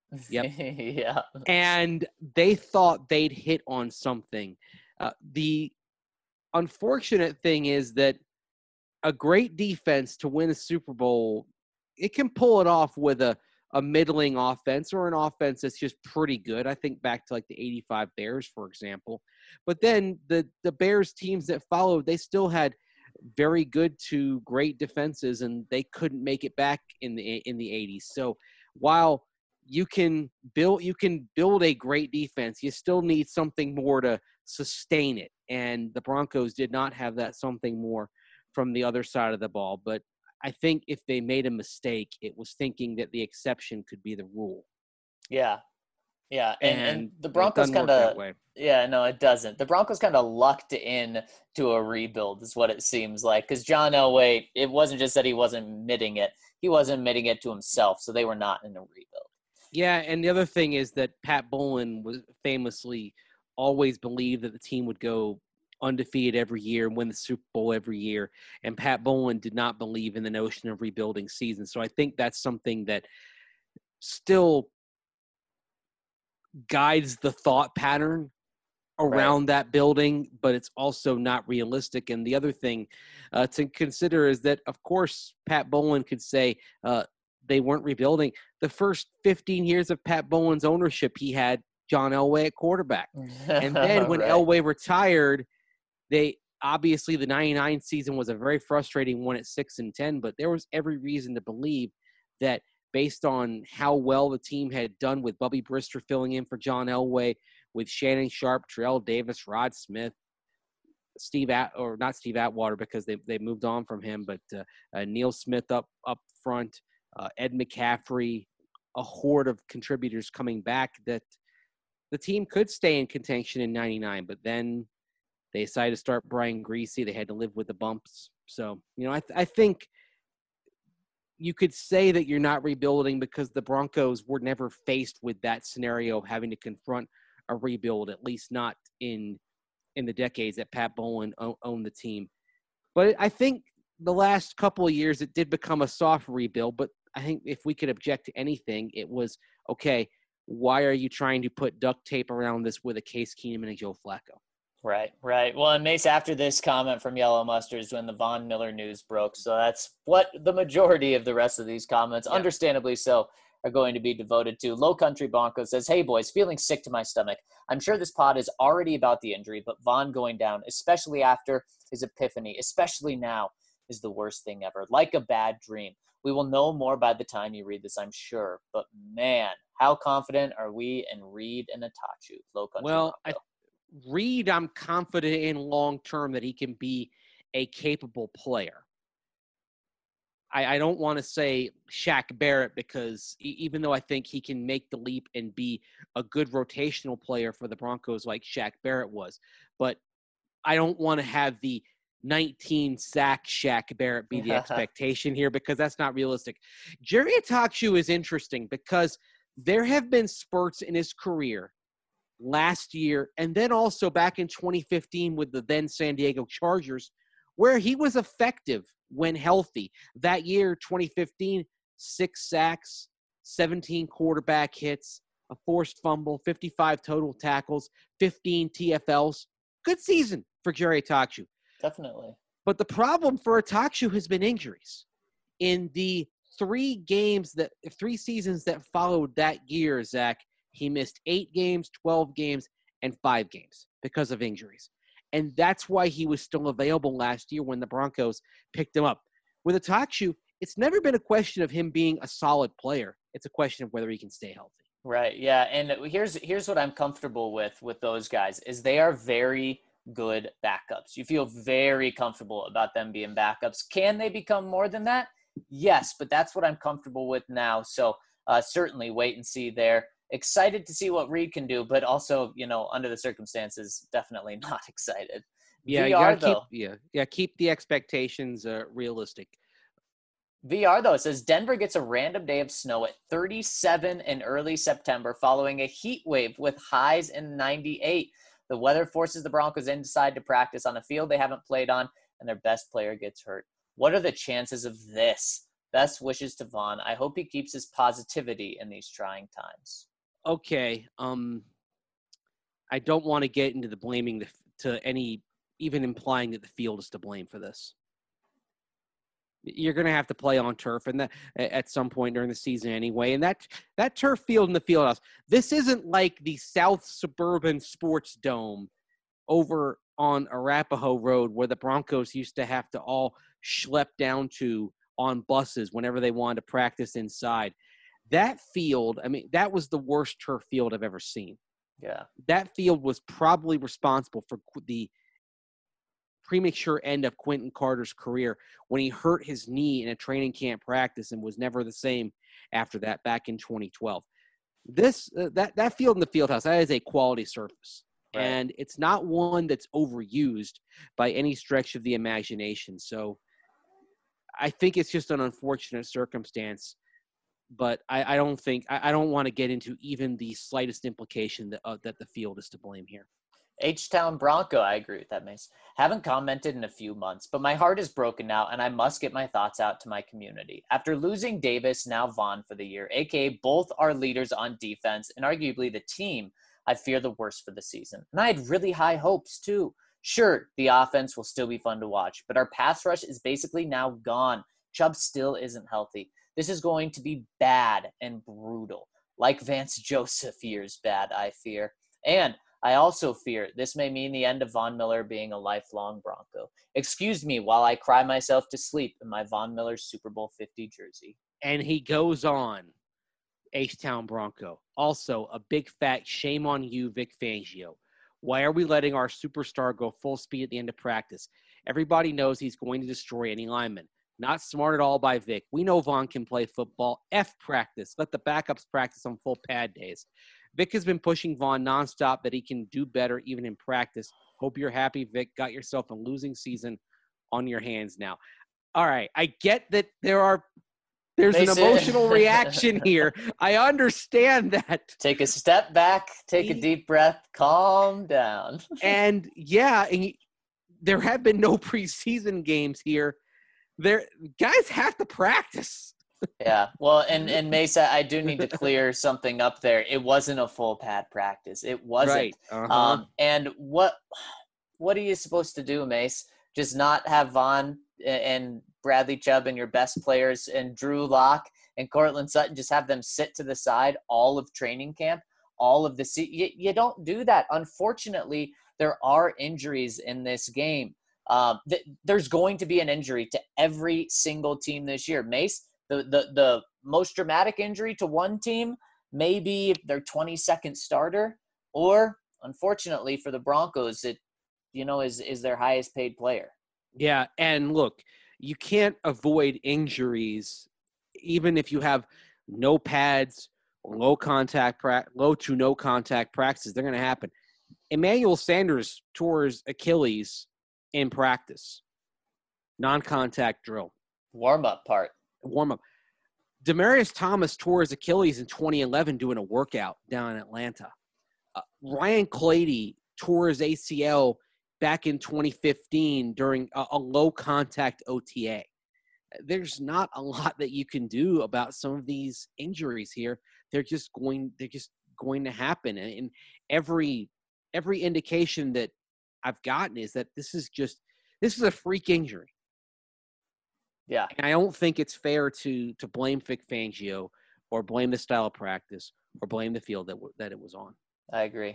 Yeah. And they thought they'd hit on something. The unfortunate thing is that a great defense to win a Super Bowl, it can pull it off with a middling offense or an offense that's just pretty good. I think back to like the 85 Bears, for example. But then the Bears teams that followed, they still had very good to great defenses, and they couldn't make it back in the 80s. So while you can build a great defense, you still need something more to sustain it. And the Broncos did not have that something more from the other side of the ball. But I think if they made a mistake, it was thinking that the exception could be the rule. Yeah. Yeah. And the Broncos kind of, yeah, no, it doesn't. The Broncos kind of lucked in to a rebuild is what it seems like. Because John Elway, it wasn't just that he wasn't admitting it. He wasn't admitting it to himself. So they were not in a rebuild. Yeah, and the other thing is that Pat Bowlen was famously always believed that the team would go undefeated every year and win the Super Bowl every year. And Pat Bowlen did not believe in the notion of rebuilding seasons. So I think that's something that still guides the thought pattern around that building, but it's also not realistic. And the other thing to consider is that, of course, Pat Bowlen could say they weren't rebuilding. The first 15 years of Pat Bowlen's ownership, he had John Elway at quarterback. And then when Elway retired, obviously the 99 season was a very frustrating one at 6-10, but there was every reason to believe that based on how well the team had done with Bubby Brister filling in for John Elway, with Shannon Sharp, Terrell Davis, Rod Smith, not Steve Atwater because they moved on from him, but Neil Smith up front, Ed McCaffrey, a horde of contributors coming back, that the team could stay in contention in 99, but then they decided to start Brian Griese. They had to live with the bumps. So, I think you could say that you're not rebuilding because the Broncos were never faced with that scenario of having to confront a rebuild, at least not in the decades that Pat Bowlen owned the team. But I think the last couple of years it did become a soft rebuild, but I think if we could object to anything, it was, okay, why are you trying to put duct tape around this with a Case Keenum and a Joe Flacco? Right. Well, and Mace, after this comment from Yellow Mustard is when the Von Miller news broke. So that's what the majority of the rest of these comments, understandably so, are going to be devoted to. Low Country Bronco says, hey, boys, feeling sick to my stomach. I'm sure this pod is already about the injury, but Von going down, especially after his epiphany, especially now, is the worst thing ever. Like a bad dream. We will know more by the time you read this, I'm sure. But, man, how confident are we in Reed and Itachu? Low Country Bronco. Reed, I'm confident in long-term that he can be a capable player. I don't want to say Shaq Barrett because even though I think he can make the leap and be a good rotational player for the Broncos like Shaq Barrett was, but I don't want to have the 19-sack Shaq Barrett be the expectation here because that's not realistic. Jerry Itachu is interesting because there have been spurts in his career last year and then also back in 2015 with the then San Diego Chargers where he was effective when healthy. That year, 2015, 6 sacks, 17 quarterback hits, a forced fumble, 55 total tackles, 15 TFLs. Good season for Jerry Itachu. Definitely. But the problem for Itachu has been injuries. In the 3 seasons that followed that year, Zach, he missed 8 games, 12 games, and 5 games because of injuries. And that's why he was still available last year when the Broncos picked him up. With Itachu, it's never been a question of him being a solid player. It's a question of whether he can stay healthy. Right, yeah. And here's what I'm comfortable with those guys is they are very good backups. You feel very comfortable about them being backups. Can they become more than that? Yes, but that's what I'm comfortable with now. So certainly wait and see there. Excited to see what Reed can do, but also, under the circumstances, definitely not excited. Yeah, VR, you gotta keep the expectations realistic. VR, though, says Denver gets a random day of snow at 37 in early September following a heat wave with highs in 98. The weather forces the Broncos inside to practice on a field they haven't played on, and their best player gets hurt. What are the chances of this? Best wishes to Von. I hope he keeps his positivity in these trying times. Okay, I don't want to get into the blaming to any, even implying that the field is to blame for this. You're going to have to play on turf and that at some point during the season anyway. And that turf field in the field house, this isn't like the South Suburban Sports Dome over on Arapahoe Road where the Broncos used to have to all schlep down to on buses whenever they wanted to practice inside. That field, that was the worst turf field I've ever seen. Yeah. That field was probably responsible for the premature end of Quentin Carter's career when he hurt his knee in a training camp practice and was never the same after that back in 2012. That field in the field house, that is a quality surface. Right. And it's not one that's overused by any stretch of the imagination. So I think it's just an unfortunate circumstance. But I don't want to get into even the slightest implication that the field is to blame here. H-Town Bronco, I agree with that, Mace. Haven't commented in a few months, but my heart is broken now, and I must get my thoughts out to my community. After losing Davis, now Von for the year, a.k.a. both our leaders on defense and arguably the team, I fear the worst for the season. And I had really high hopes, too. Sure, the offense will still be fun to watch, but our pass rush is basically now gone. Chubb still isn't healthy. This is going to be bad and brutal, like Vance Joseph years bad, I fear. And I also fear this may mean the end of Von Miller being a lifelong Bronco. Excuse me while I cry myself to sleep in my Von Miller Super Bowl 50 jersey. And he goes on, H-Town Bronco. Also, a big fat shame on you, Vic Fangio. Why are we letting our superstar go full speed at the end of practice? Everybody knows he's going to destroy any lineman. Not smart at all by Vic. We know Von can play football. F practice. Let the backups practice on full pad days. Vic has been pushing Von nonstop that he can do better even in practice. Hope you're happy, Vic. Got yourself a losing season on your hands now. All right. I get that there's an emotional reaction here. I understand that. Take a step back. Take a deep breath. Calm down. And there have been no preseason games here. Guys have to practice. Yeah. Well, and Mesa, I do need to clear something up there. It wasn't a full pad practice. It wasn't. Right. Uh-huh. And what are you supposed to do, Mace? Just not have Vaughn and Bradley Chubb and your best players and Drew Lock and Cortland Sutton, just have them sit to the side all of training camp, all of you don't do that. Unfortunately, there are injuries in this game. There's going to be an injury to every single team this year. Mace, the most dramatic injury to one team may be their 22nd starter, or unfortunately for the Broncos, it is their highest paid player. Yeah, and look, you can't avoid injuries even if you have no pads, low to no contact practices. They're going to happen. Emmanuel Sanders tore his Achilles in practice, non-contact drill. Warm-up part. Warm-up. Demaryius Thomas tore his Achilles in 2011 doing a workout down in Atlanta. Ryan Clady tore his ACL back in 2015 during a low-contact OTA. There's not a lot that you can do about some of these injuries here. They're just going to happen. And every indication that I've gotten is that this is a freak injury. Yeah. And I don't think it's fair to blame Vic Fangio or blame the style of practice or blame the field that it was on. I agree.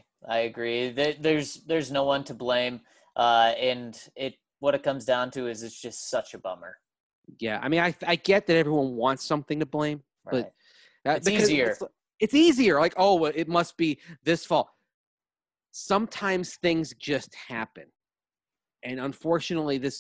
There's no one to blame. And what it comes down to is it's just such a bummer. Yeah. I mean, I get that everyone wants something to blame, right. but it's easier. It's easier. Like, oh, it must be this fault. Sometimes things just happen. And unfortunately, this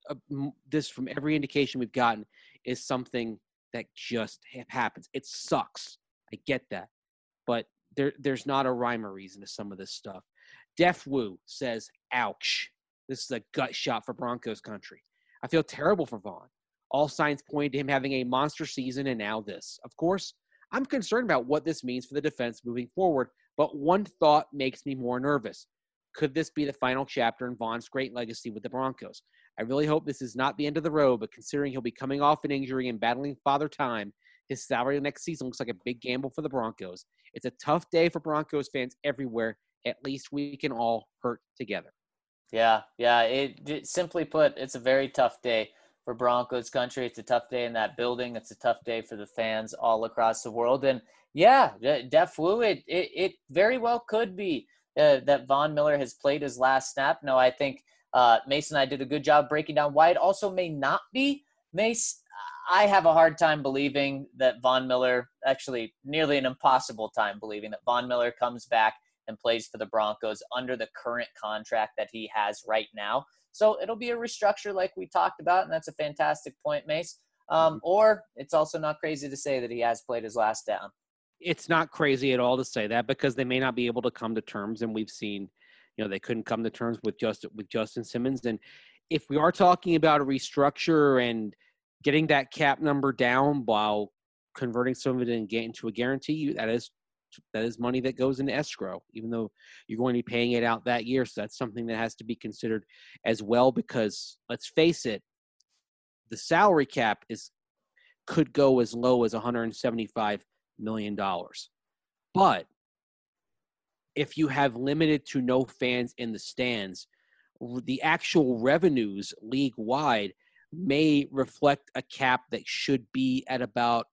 from every indication we've gotten is something that just happens. It sucks. I get that. But there's not a rhyme or reason to some of this stuff. Def Wu says, ouch. This is a gut shot for Broncos country. I feel terrible for Vaughn. All signs point to him having a monster season, and now this. Of course, I'm concerned about what this means for the defense moving forward, but one thought makes me more nervous. Could this be the final chapter in Vaughn's great legacy with the Broncos? I really hope this is not the end of the road, but considering he'll be coming off an injury and battling father time, his salary next season looks like a big gamble for the Broncos. It's a tough day for Broncos fans everywhere. At least we can all hurt together. Yeah. It simply put, it's a very tough day for Broncos country. It's a tough day in that building. It's a tough day for the fans all across the world. And yeah, Def Wu, it very well could be that Von Miller has played his last snap. No, I think Mason and I did a good job breaking down why it also may not be. Mace, I have a hard time believing that Von Miller, actually nearly an impossible time believing that Von Miller comes back and plays for the Broncos under the current contract that he has right now. So it'll be a restructure like we talked about, and that's a fantastic point, Mace. Or it's also not crazy to say that he has played his last down. It's not crazy at all to say that because they may not be able to come to terms, and we've seen, they couldn't come to terms with Justin Simmons. And if we are talking about a restructure and getting that cap number down while converting some of it into a guarantee, that is money that goes into escrow, even though you're going to be paying it out that year. So that's something that has to be considered as well, because let's face it, the salary cap could go as low as $175 million. But if you have limited to no fans in the stands, the actual revenues league-wide may reflect a cap that should be at about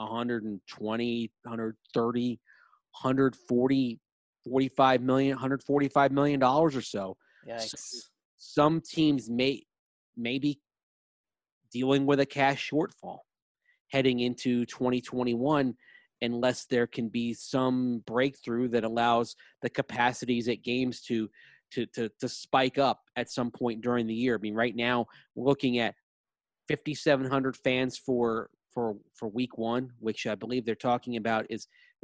120, 130, 140, $45 million, $145 million or so. Yikes. So some teams may be dealing with a cash shortfall heading into 2021 unless there can be some breakthrough that allows the capacities at games to spike up at some point during the year. I mean, right now we're looking at 5,700 fans for week one, which I believe they're talking about is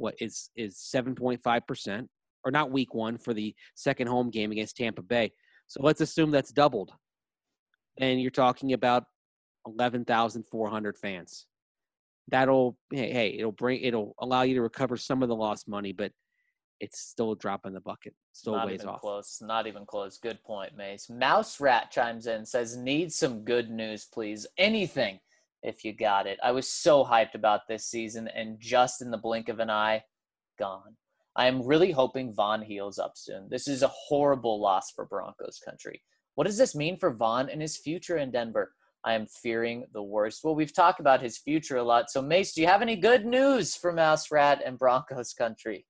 7.5%, or not week one, for the second home game against Tampa Bay. So let's assume that's doubled. And you're talking about 11,400 fans. It'll allow you to recover some of the lost money, but it's still a drop in the bucket. Still not ways even off. Close. Not even close. Good point, Mace. Mouse Rat chimes in, says, need some good news, please. Anything if you got it. I was so hyped about this season, and just in the blink of an eye, gone. I am really hoping Von heals up soon. This is a horrible loss for Broncos country. What does this mean for Von and his future in Denver? I am fearing the worst. Well, we've talked about his future a lot. So, Mace, do you have any good news for Mouse Rat and Broncos country?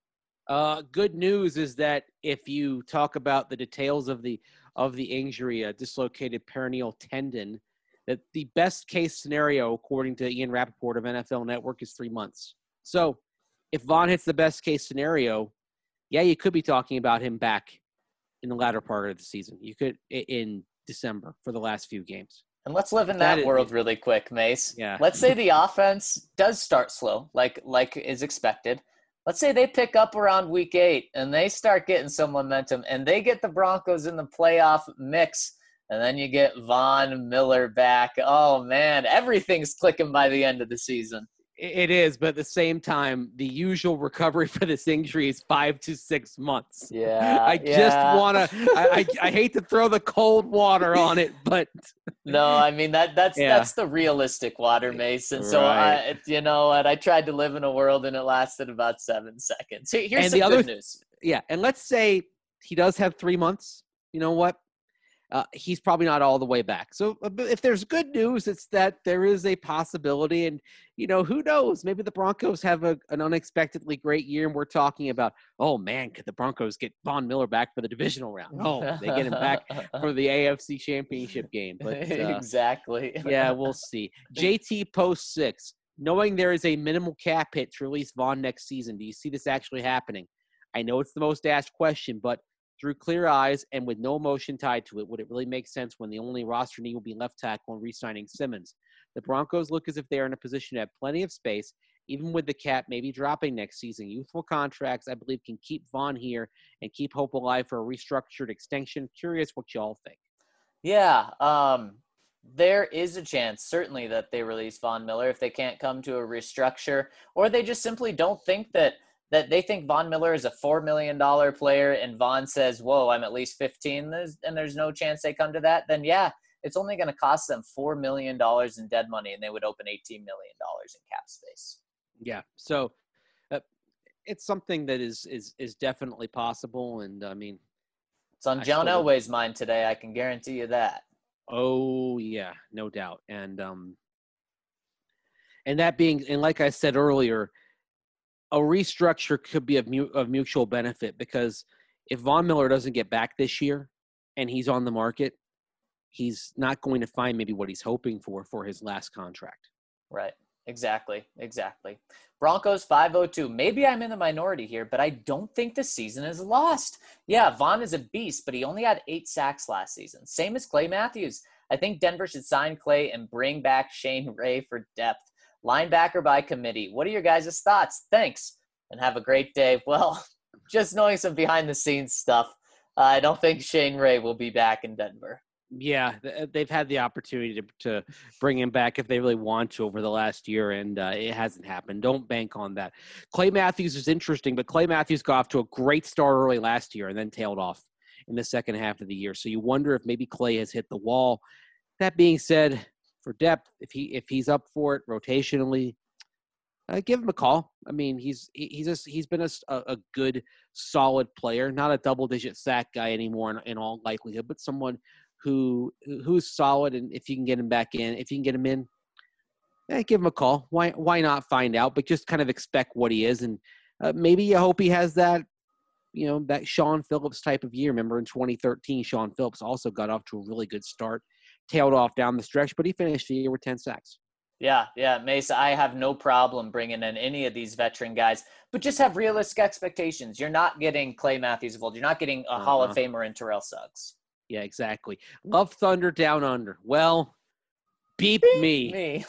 Good news is that if you talk about the details of the injury, a dislocated peroneal tendon, that the best case scenario, according to Ian Rappaport of NFL Network, is 3 months. So if Von hits the best case scenario, yeah, you could be talking about him back in the latter part of the season. You could in December for the last few games. And let's live in that world really quick, Mace. Yeah. Let's say the offense does start slow, like is expected. Let's say they pick up around week 8 and they start getting some momentum and they get the Broncos in the playoff mix, and then you get Von Miller back. Oh, man, everything's clicking by the end of the season. It is, but at the same time, the usual recovery for this injury is 5 to 6 months. Yeah. I just want to – I hate to throw the cold water on it, but – No, I mean, that's the realistic water, Mason. So, right. I tried to live in a world, and it lasted about 7 seconds. Here's some good news. Yeah, and let's say he does have 3 months. You know what? He's probably not all the way back. So if there's good news, it's that there is a possibility. And, who knows? Maybe the Broncos have an unexpectedly great year, and we're talking about, oh, man, could the Broncos get Von Miller back for the divisional round? Oh, they get him back for the AFC Championship game. But exactly. Yeah, we'll see. JT Post 6, knowing there is a minimal cap hit to release Von next season, do you see this actually happening? I know it's the most asked question, but through clear eyes and with no emotion tied to it, would it really make sense when the only roster need will be left tackle and re-signing Simmons? The Broncos look as if they are in a position to have plenty of space, even with the cap maybe dropping next season. Youthful contracts, I believe, can keep Von here and keep hope alive for a restructured extension. Curious what y'all think. Yeah, there is a chance, certainly, that they release Von Miller if they can't come to a restructure, or they just simply don't think that they think Von Miller is a $4 million player and Von says, whoa, I'm at least 15, and there's no chance they come to that, then yeah, it's only going to cost them $4 million in dead money, and they would open $18 million in cap space. Yeah, so it's something that is definitely possible, and I mean, it's on John Elway's mind today, I can guarantee you that. Oh yeah, no doubt, and that being, and like I said earlier, a restructure could be of mutual benefit, because if Von Miller doesn't get back this year and he's on the market, he's not going to find maybe what he's hoping for his last contract. Right. Exactly. Broncos 502. Maybe I'm in the minority here, but I don't think the season is lost. Yeah, Von is a beast, but he only had 8 sacks last season. Same as Clay Matthews. I think Denver should sign Clay and bring back Shane Ray for depth. Linebacker by committee. What are your guys' thoughts? Thanks, and have a great day. Well, just knowing some behind-the-scenes stuff, I don't think Shane Ray will be back in Denver. Yeah, they've had the opportunity to bring him back if they really want to over the last year, and it hasn't happened. Don't bank on that. Clay Matthews is interesting, but Clay Matthews got off to a great start early last year and then tailed off in the second half of the year. So you wonder if maybe Clay has hit the wall. That being said, for depth, if he's up for it rotationally, give him a call. I mean, he's been a good, solid player, not a double-digit sack guy anymore in all likelihood, but someone who's solid. And if you can get him back in, if you can get him in, give him a call. Why not find out? But just kind of expect what he is, and maybe you hope he has that, that Sean Phillips type of year. Remember in 2013, Sean Phillips also got off to a really good start. Tailed off down the stretch, but he finished the year with 10 sacks. Yeah, Mesa, I have no problem bringing in any of these veteran guys, but just have realistic expectations. You're not getting Clay Matthews of old. You're not getting a Hall of Famer in Terrell Suggs. Yeah, exactly. Love Thunder Down Under. Well, beep me.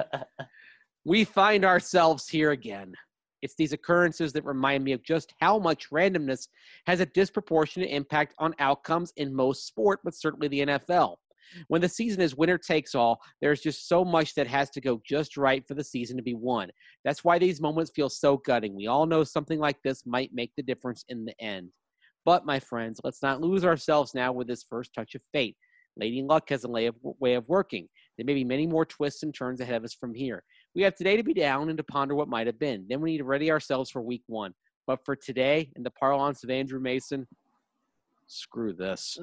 We find ourselves here again. It's these occurrences that remind me of just how much randomness has a disproportionate impact on outcomes in most sport, but certainly the NFL. When the season is winner takes all, there's just so much that has to go just right for the season to be won. That's why these moments feel so gutting. We all know something like this might make the difference in the end. But, my friends, let's not lose ourselves now with this first touch of fate. Lady Luck has a way of working. There may be many more twists and turns ahead of us from here. We have today to be down and to ponder what might have been. Then we need to ready ourselves for week 1. But for today, in the parlance of Andrew Mason, screw this.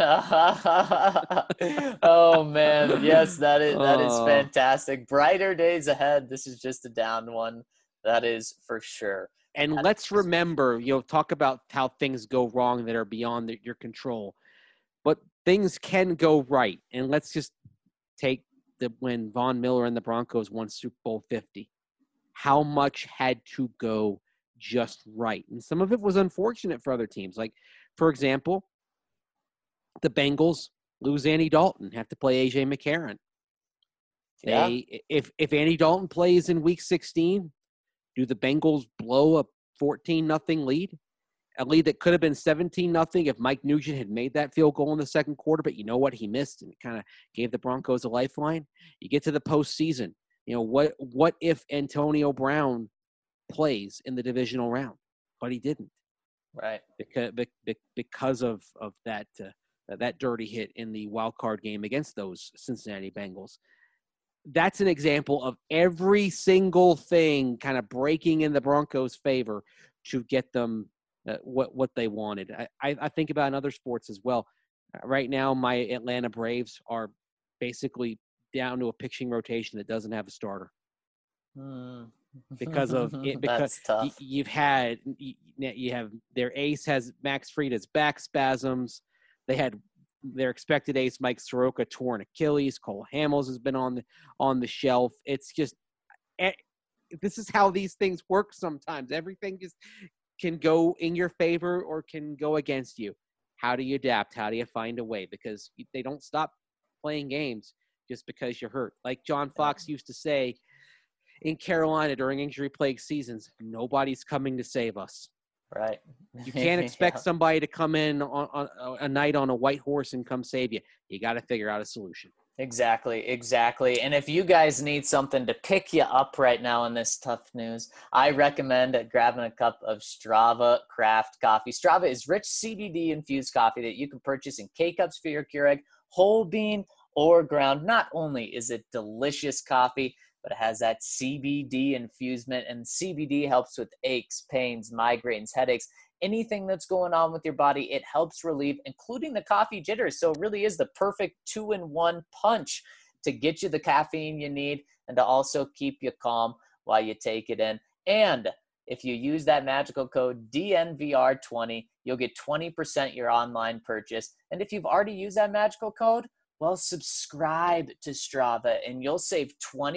Oh man, yes, that is fantastic. Brighter days ahead. This is just a down one. That is for sure. And let's remember, talk about how things go wrong that are beyond your control. But things can go right. And let's just take when Von Miller and the Broncos won Super Bowl 50. How much had to go just right? And some of it was unfortunate for other teams. Like, for example, the Bengals lose Andy Dalton, have to play A.J. McCarron. Yeah. If Andy Dalton plays in Week 16, do the Bengals blow a 14-0 lead? A lead that could have been 17-0 if Mike Nugent had made that field goal in the second quarter, but you know what? He missed, and it kind of gave the Broncos a lifeline. You get to the postseason. What if Antonio Brown plays in the divisional round? But he didn't. Right. Because of that dirty hit in the wild card game against those Cincinnati Bengals. That's an example of every single thing kind of breaking in the Broncos' favor to get them what they wanted. I think about in other sports as well. Right now, my Atlanta Braves are basically down to a pitching rotation that doesn't have a starter. Because of it, because you have their ace has Max Fried has back spasms. They had their expected ace Mike Soroka torn Achilles. Cole Hamels has been on the shelf. It's just this is how these things work sometimes. Everything just can go in your favor or can go against you. How do you adapt? How do you find a way? Because they don't stop playing games just because you're hurt. Like John Fox used to say in Carolina during injury-plagued seasons, nobody's coming to save us. Right. You can't expect somebody to come in on a night on a white horse and come save you. You got to figure out a solution. Exactly. And if you guys need something to pick you up right now in this tough news, I recommend grabbing a cup of Strava Craft coffee. Strava is rich CBD-infused coffee that you can purchase in K-Cups for your Keurig, whole bean, or ground. Not only is it delicious coffee, but it has that CBD infusement, and CBD helps with aches, pains, migraines, headaches, anything that's going on with your body. It helps relieve, including the coffee jitters. So it really is the perfect 2-in-1 punch to get you the caffeine you need and to also keep you calm while you take it in. And if you use that magical code DNVR20, you'll get 20% your online purchase. And if you've already used that magical code, well, subscribe to Strava and you'll save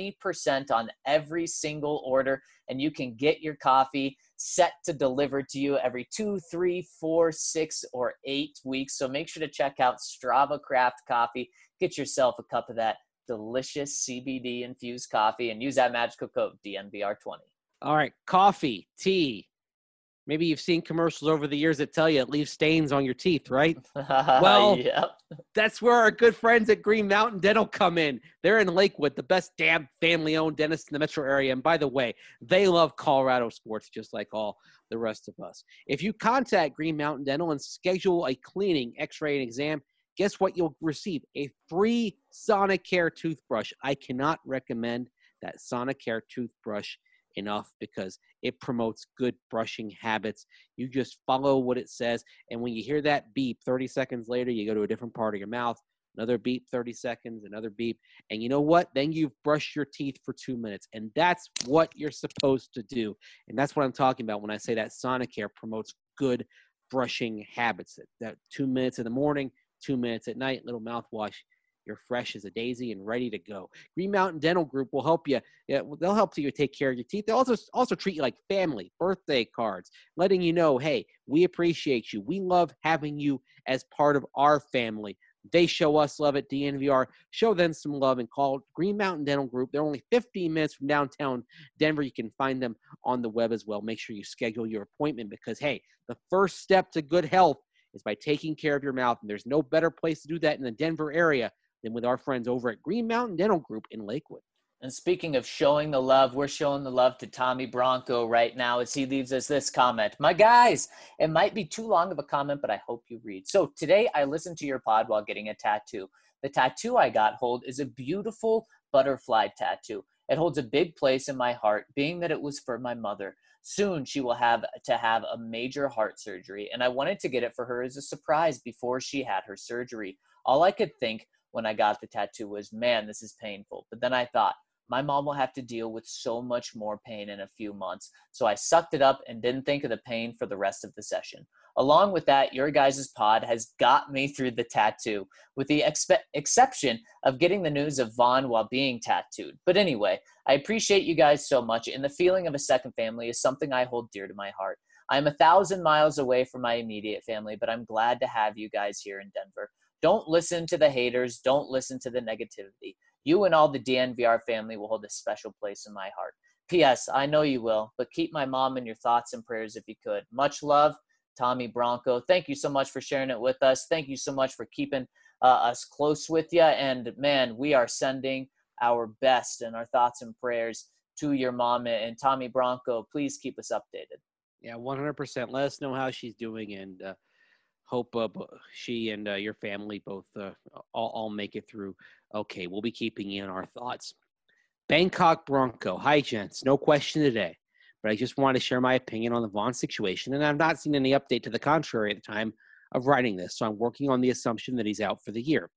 20% on every single order, and you can get your coffee set to deliver to you every 2, 3, 4, 6, or 8 weeks. So make sure to check out Strava Craft Coffee. Get yourself a cup of that delicious CBD infused coffee and use that magical code DNVR20. All right, coffee, tea. Maybe you've seen commercials over the years that tell you it leaves stains on your teeth, right? Well, yep. That's where our good friends at Green Mountain Dental come in. They're in Lakewood, the best damn family-owned dentist in the metro area. And by the way, they love Colorado sports just like all the rest of us. If you contact Green Mountain Dental and schedule a cleaning, x-ray, and exam, guess what? You'll receive a free Sonicare toothbrush. I cannot recommend that Sonicare toothbrush enough because it promotes good brushing habits. You just follow what it says, and when you hear that beep 30 seconds later, you go to a different part of your mouth, another beep 30 seconds, another beep, and you know what? Then you've brushed your teeth for 2 minutes, and that's what you're supposed to do. And that's what I'm talking about when I say that Sonicare promotes good brushing habits. That 2 minutes in the morning, 2 minutes at night, little mouthwash. You're fresh as a daisy and ready to go. Green Mountain Dental Group will help you. They'll help you take care of your teeth. They'll also treat you like family, birthday cards, letting you know, hey, we appreciate you. We love having you as part of our family. They show us love at DNVR. Show them some love and call Green Mountain Dental Group. They're only 15 minutes from downtown Denver. You can find them on the web as well. Make sure you schedule your appointment because, hey, the first step to good health is by taking care of your mouth. And there's no better place to do that in the Denver area than with our friends over at Green Mountain Dental Group in Lakewood. And speaking of showing the love, we're showing the love to Tommy Bronco right now as he leaves us this comment. My guys, it might be too long of a comment, but I hope you read. So today I listened to your pod while getting a tattoo. The tattoo I got is a beautiful butterfly tattoo. It holds a big place in my heart, being that it was for my mother. Soon she will have to have a major heart surgery, and I wanted to get it for her as a surprise before she had her surgery. All I could think when I got the tattoo was, man, this is painful. But then I thought, my mom will have to deal with so much more pain in a few months. So I sucked it up and didn't think of the pain for the rest of the session. Along with that, your guys' pod has got me through the tattoo, with the exception of getting the news of Vaughn while being tattooed. But anyway, I appreciate you guys so much, and the feeling of a second family is something I hold dear to my heart. I am 1,000 miles away from my immediate family, but I'm glad to have you guys here in Denver. Don't listen to the haters. Don't listen to the negativity. You and all the DNVR family will hold a special place in my heart. P.S. I know you will, but keep my mom in your thoughts and prayers if you could. Much love, Tommy Bronco. Thank you so much for sharing it with us. Thank you so much for keeping us close with you. And, man, we are sending our best and our thoughts and prayers to your mom. And Tommy Bronco, please keep us updated. Yeah, 100%. Let us know how she's doing, and hope she and your family both all make it through. Okay, we'll be keeping you in our thoughts. Bangkok Bronco. Hi, gents. No question today, but I just want to share my opinion on the Vaughn situation, and I've not seen any update to the contrary at the time of writing this, so I'm working on the assumption that he's out for the year.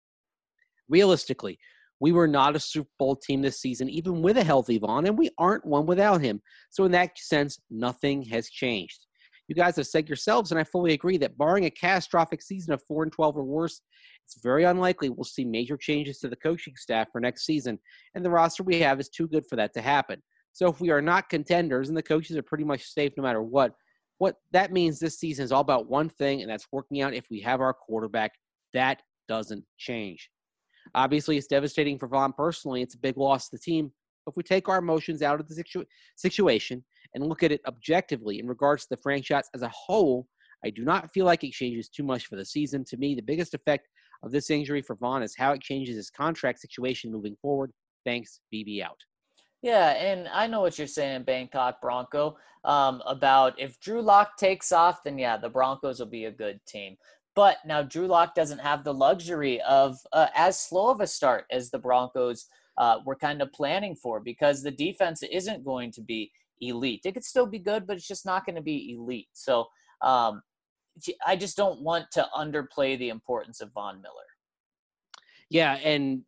Realistically, we were not a Super Bowl team this season, even with a healthy Vaughn, and we aren't one without him. So in that sense, nothing has changed. You guys have said yourselves, and I fully agree, that barring a catastrophic season of 4-12 or worse, it's very unlikely we'll see major changes to the coaching staff for next season, and the roster we have is too good for that to happen. So if we are not contenders and the coaches are pretty much safe no matter what that means this season is all about one thing, and that's working out if we have our quarterback. That doesn't change. Obviously, it's devastating for Vaughn personally. It's a big loss to the team. If we take our emotions out of the situation and look at it objectively in regards to the franchise as a whole, I do not feel like it changes too much for the season. To me, the biggest effect of this injury for Vaughn is how it changes his contract situation moving forward. Thanks, BB out. Yeah, and I know what you're saying, Bangkok Bronco, about if Drew Lock takes off, then yeah, the Broncos will be a good team. But now Drew Lock doesn't have the luxury of as slow of a start as the Broncos were kind of planning for, because the defense isn't going to be elite. It could still be good, but it's just not going to be elite. So I just don't want to underplay the importance of Von Miller. Yeah, and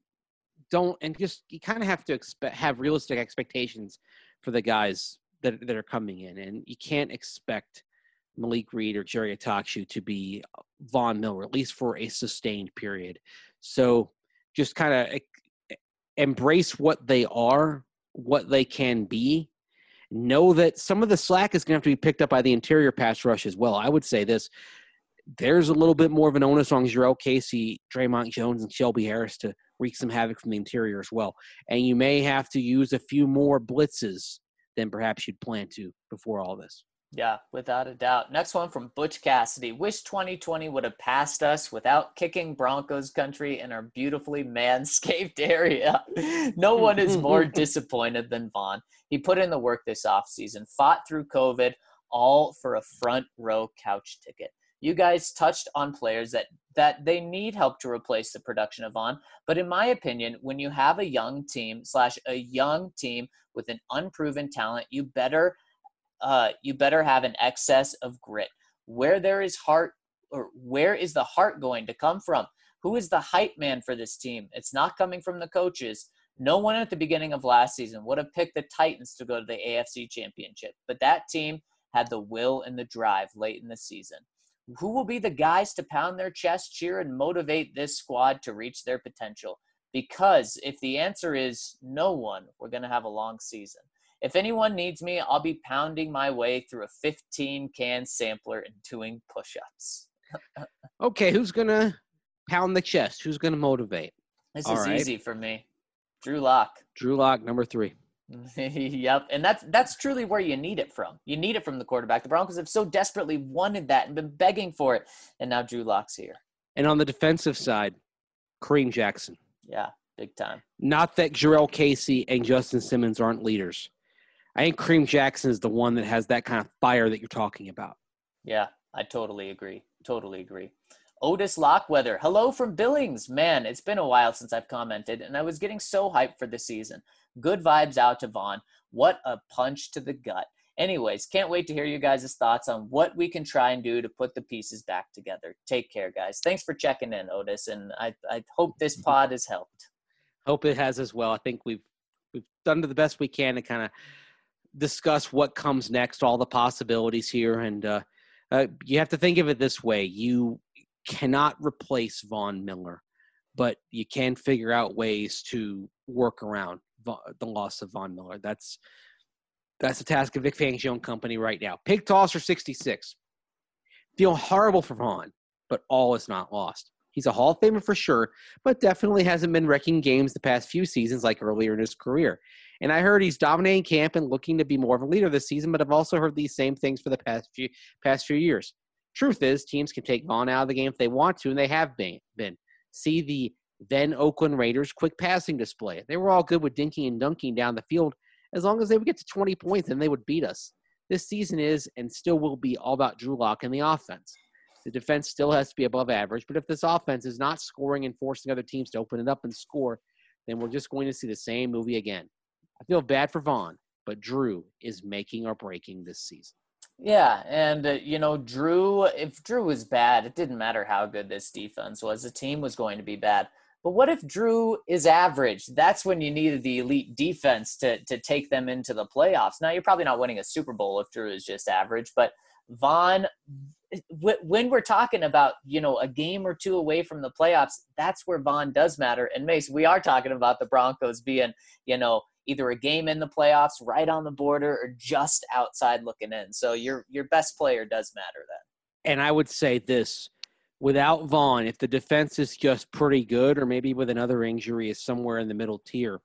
you kind of have to have realistic expectations for the guys that are coming in, and you can't expect Malik Reed or Jerry Attaochu to be Von Miller, at least for a sustained period. So just kind of embrace what they are, what they can be. Know that some of the slack is going to have to be picked up by the interior pass rush as well. I would say this. There's a little bit more of an onus on Jurrell Casey, Draymond Jones, and Shelby Harris to wreak some havoc from the interior as well. And you may have to use a few more blitzes than perhaps you'd planned to before all this. Yeah, without a doubt. Next one from Butch Cassidy. Wish 2020 would have passed us without kicking Broncos country in our beautifully manscaped area. No one is more disappointed than Vaughn. He put in the work this offseason, fought through COVID, all for a front row couch ticket. You guys touched on players that they need help to replace the production of Vaughn. But in my opinion, when you have a young team with an unproven talent, you better have an excess of grit. Where there is heart, or where is the heart going to come from? Who is the hype man for this team? It's not coming from the coaches. No one at the beginning of last season would have picked the Titans to go to the AFC Championship, but that team had the will and the drive late in the season. Who will be the guys to pound their chest, cheer, and motivate this squad to reach their potential? Because if the answer is no one, we're going to have a long season. If anyone needs me, I'll be pounding my way through a 15-can sampler and doing push-ups. Okay, who's going to pound the chest? Who's going to motivate? This is easy for me. Drew Lock. Drew Lock, number 3. Yep, and that's truly where you need it from. You need it from the quarterback. The Broncos have so desperately wanted that and been begging for it, and now Drew Lock's here. And on the defensive side, Kareem Jackson. Yeah, big time. Not that Jurrell Casey and Justin Simmons aren't leaders. I think Kareem Jackson is the one that has that kind of fire that you're talking about. Yeah, I totally agree. Totally agree. Otis Lockweather, hello from Billings. Man, it's been a while since I've commented, and I was getting so hyped for the season. Good vibes out to Vaughn. What a punch to the gut. Anyways, can't wait to hear you guys' thoughts on what we can try and do to put the pieces back together. Take care, guys. Thanks for checking in, Otis, and I hope this pod has helped. Hope it has as well. I think we've done the best we can to kind of discuss what comes next, all the possibilities here, and you have to think of it this way. You cannot replace Von Miller, but you can figure out ways to work around the loss of Von Miller. That's the task of Vic Fangio and company right now. Pig Tosser 66. Feel horrible for Vaughn, but all is not lost. He's a Hall of Famer for sure, but definitely hasn't been wrecking games the past few seasons like earlier in his career. And I heard he's dominating camp and looking to be more of a leader this season, but I've also heard these same things for the past few years. Truth is, teams can take Vaughn out of the game if they want to, and they have been. See the then Oakland Raiders' quick passing display. They were all good with dinking and dunking down the field. As long as they would get to 20 points, then they would beat us. This season is and still will be all about Drew Lock and the offense. The defense still has to be above average, but if this offense is not scoring and forcing other teams to open it up and score, then we're just going to see the same movie again. I feel bad for Vaughn, but Drew is making or breaking this season. Yeah, and, Drew, if Drew was bad, it didn't matter how good this defense was. The team was going to be bad. But what if Drew is average? That's when you needed the elite defense to take them into the playoffs. Now, you're probably not winning a Super Bowl if Drew is just average, but Vaughn, when we're talking about, a game or two away from the playoffs, that's where Vaughn does matter. And Mace, we are talking about the Broncos being, either a game in the playoffs, right on the border, or just outside looking in. So your best player does matter then. And I would say this. Without Vaughn, if the defense is just pretty good or maybe with another injury is somewhere in the middle tier,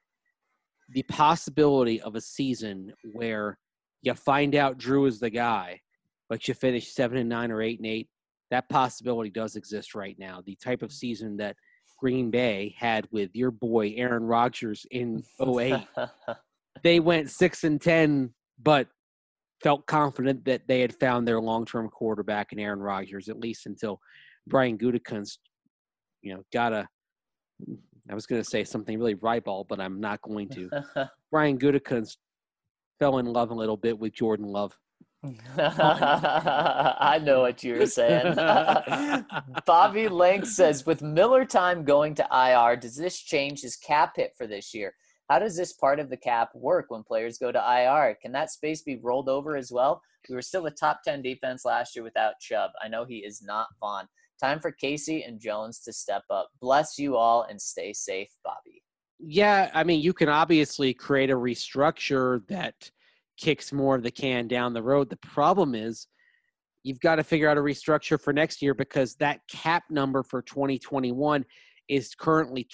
the possibility of a season where you find out Drew is the guy, but you finish 7-9 or 8-8, that possibility does exist right now. The type of season that Green Bay had with your boy Aaron Rodgers in 2008. They went 6-10, but felt confident that they had found their long-term quarterback in Aaron Rodgers, at least until Brian Gutekunst, I was going to say something really ribald, but I'm not going to. Brian Gutekunst fell in love a little bit with Jordan Love. I know what you were saying. Bobby Lang says, with Miller time going to IR, does this change his cap hit for this year? How does this part of the cap work when players go to IR? Can that space be rolled over as well? We were still a top 10 defense last year without Chubb. I know he is not Vaughn. Time for Casey and Jones to step up. Bless you all and stay safe, Bobby. Yeah, I mean, you can obviously create a restructure that kicks more of the can down the road. The problem is you've got to figure out a restructure for next year because that cap number for 2021 is currently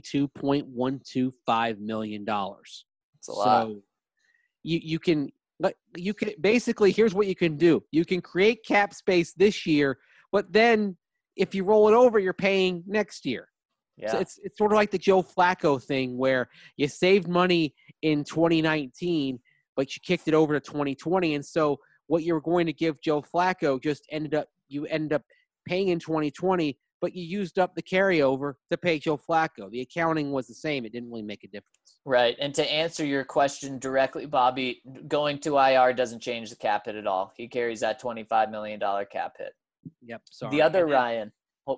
$22.125 million. That's a lot. So you can basically, here's what you can do. You can create cap space this year, but then if you roll it over, you're paying next year. Yeah. So it's sort of like the Joe Flacco thing where you saved money in 2019, but you kicked it over to 2020. And so what you were going to give Joe Flacco just ended up paying in 2020, but you used up the carryover to pay Joe Flacco. The accounting was the same. It didn't really make a difference. Right. And to answer your question directly, Bobby, going to IR doesn't change the cap hit at all. He carries that $25 million cap hit. Yep. Sorry. The other Ryan.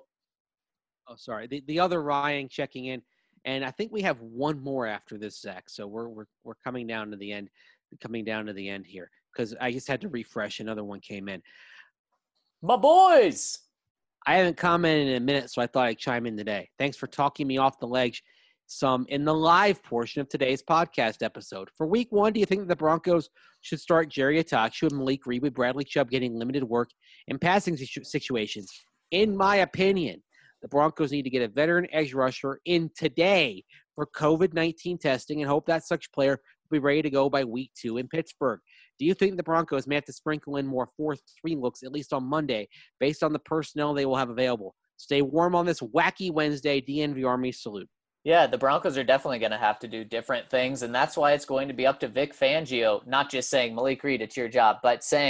Sorry. The other Ryan checking in. And I think we have one more after this, Zach. So we're coming down to the end here because I just had to refresh. Another one came in. My boys. I haven't commented in a minute, so I thought I'd chime in today. Thanks for talking me off the ledge some in the live portion of today's podcast episode. For week 1, do you think that the Broncos should start Jerry Attack and Malik Reed with Bradley Chubb getting limited work in passing situations? In my opinion, the Broncos need to get a veteran edge rusher in today for COVID-19 testing and hope that such player will be ready to go by week 2 in Pittsburgh. Do you think the Broncos may have to sprinkle in more 4-3 looks, at least on Monday, based on the personnel they will have available? Stay warm on this wacky Wednesday. DNV Army salute. Yeah, the Broncos are definitely going to have to do different things, and that's why it's going to be up to Vic Fangio, not just saying, Malik Reed, it's your job, but saying,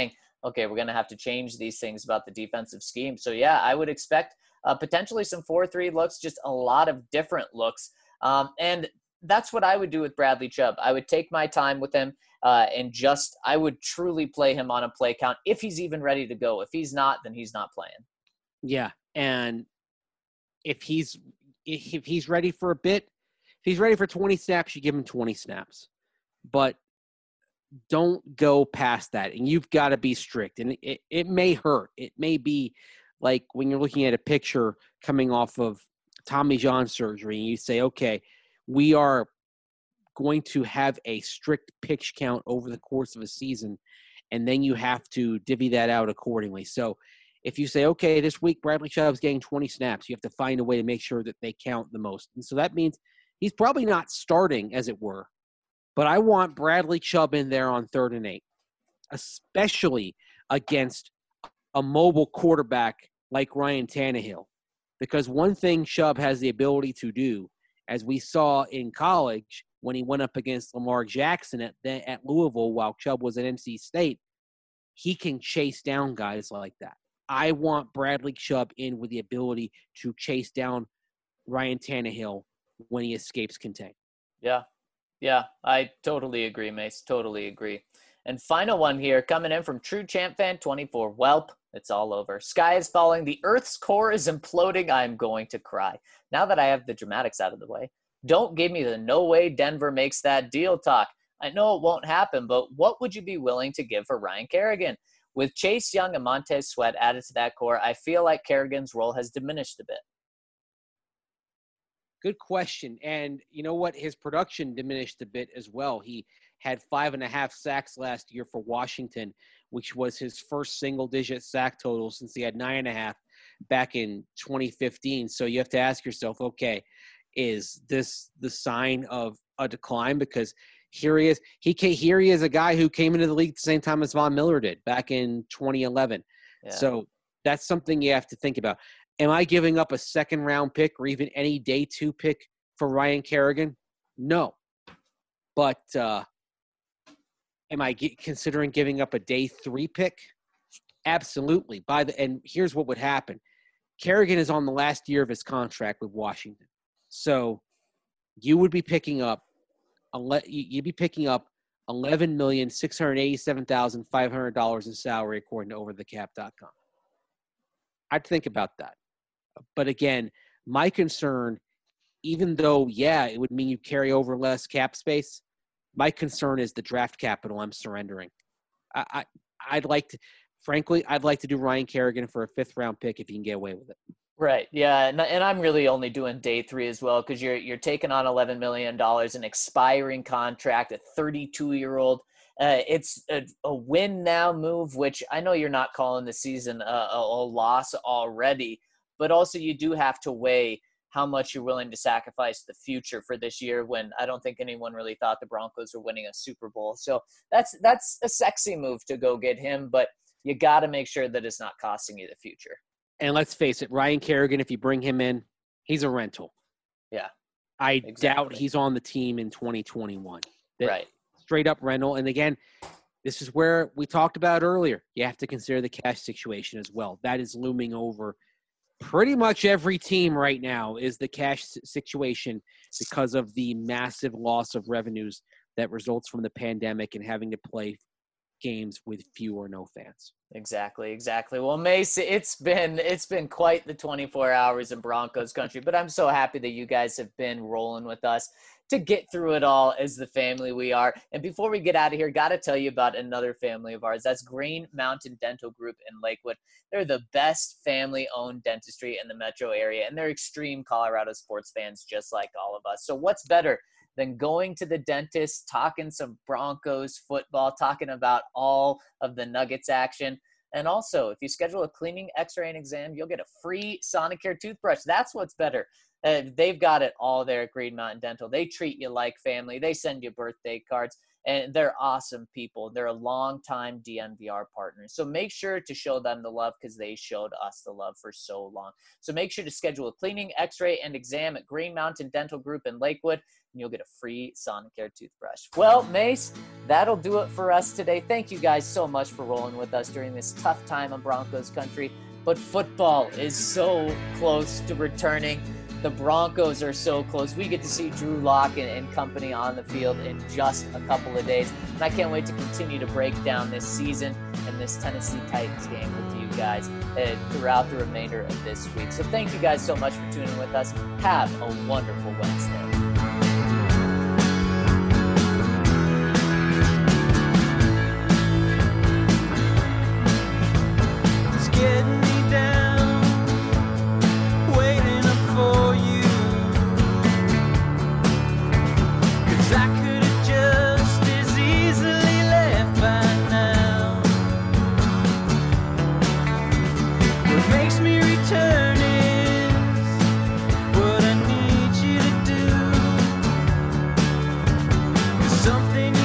okay, we're going to have to change these things about the defensive scheme. So, yeah, I would expect potentially some 4-3 looks, just a lot of different looks. And that's what I would do with Bradley Chubb. I would take my time with him I would truly play him on a play count if he's even ready to go. If he's not, then he's not playing. Yeah, and if he's ready for a bit, if he's ready for 20 snaps, you give him 20 snaps. But don't go past that, and you've got to be strict. And it may hurt. It may be like when you're looking at a picture coming off of Tommy John surgery, and you say, okay, we are going to have a strict pitch count over the course of a season, and then you have to divvy that out accordingly. So if you say, okay, this week Bradley Chubb's getting 20 snaps, you have to find a way to make sure that they count the most. And so that means he's probably not starting, as it were. But I want Bradley Chubb in there on 3rd and 8, especially against a mobile quarterback like Ryan Tannehill. Because one thing Chubb has the ability to do, as we saw in college when he went up against Lamar Jackson at Louisville while Chubb was at NC State, he can chase down guys like that. I want Bradley Chubb in with the ability to chase down Ryan Tannehill when he escapes contain. Yeah, I totally agree, Mace. Totally agree. And final one here, coming in from True Champ Fan 24. Welp, it's all over. Sky is falling. The Earth's core is imploding. I'm going to cry. Now that I have the dramatics out of the way, don't give me the no way Denver makes that deal talk. I know it won't happen, but what would you be willing to give for Ryan Kerrigan? With Chase Young and Montez Sweat added to that core, I feel like Kerrigan's role has diminished a bit. Good question. And you know what? His production diminished a bit as well. He had 5.5 sacks last year for Washington, which was his first single-digit sack total since he had 9.5 back in 2015. So you have to ask yourself, okay, is this the sign of a decline? Because here he is. Here he is, a guy who came into the league at the same time as Von Miller did back in 2011. Yeah. So that's something you have to think about. Am I giving up a second-round pick or even any day 2 pick for Ryan Kerrigan? No. But am I considering giving up a day 3 pick? Absolutely. And here's what would happen. Kerrigan is on the last year of his contract with Washington. So you would be picking up $11,687,500 in salary according to overthecap.com. I'd think about that. But again, my concern, even though, yeah, it would mean you carry over less cap space, my concern is the draft capital I'm surrendering. I'd like to do Ryan Kerrigan for a 5th-round pick if you can get away with it. Right. Yeah. And I'm really only doing day 3 as well, because you're taking on $11 million, an expiring contract, a 32-year-old. It's a win now move, which I know you're not calling the season a loss already, but also you do have to weigh how much you're willing to sacrifice the future for this year, when I don't think anyone really thought the Broncos were winning a Super Bowl. So that's a sexy move to go get him, but you got to make sure that it's not costing you the future. And let's face it, Ryan Kerrigan, if you bring him in, he's a rental. Yeah. I doubt he's on the team in 2021. Right. Straight up rental. And again, this is where we talked about earlier. You have to consider the cash situation as well. That is looming over pretty much every team right now, is the cash situation, because of the massive loss of revenues that results from the pandemic and having to play games with few or no fans. Exactly. Well, Mace, it's been quite the 24 hours in Broncos country, but I'm so happy that you guys have been rolling with us to get through it all as the family we are. And before we get out of here, got to tell you about another family of ours. That's Green Mountain Dental Group in Lakewood. They're the best family-owned dentistry in the metro area, and they're extreme Colorado sports fans just like all of us. So what's better than going to the dentist, talking some Broncos football, talking about all of the Nuggets action? And also, if you schedule a cleaning, x-ray, and exam, you'll get a free Sonicare toothbrush. That's what's better. They've got it all there at Green Mountain Dental. They treat you like family. They send you birthday cards. and they're awesome people. They're a longtime DNVR partner. So make sure to show them the love because they showed us the love for so long. So make sure to schedule a cleaning, x-ray, and exam at Green Mountain Dental Group in Lakewood, and you'll get a free Sonicare toothbrush. Well, Mace, that'll do it for us today. Thank you guys so much for rolling with us during this tough time in Broncos country. But football is so close to returning. The Broncos are so close. We get to see Drew Lock and company on the field in just a couple of days. And I can't wait to continue to break down this season and this Tennessee Titans game with you guys throughout the remainder of this week. So thank you guys so much for tuning with us. Have a wonderful Wednesday. Something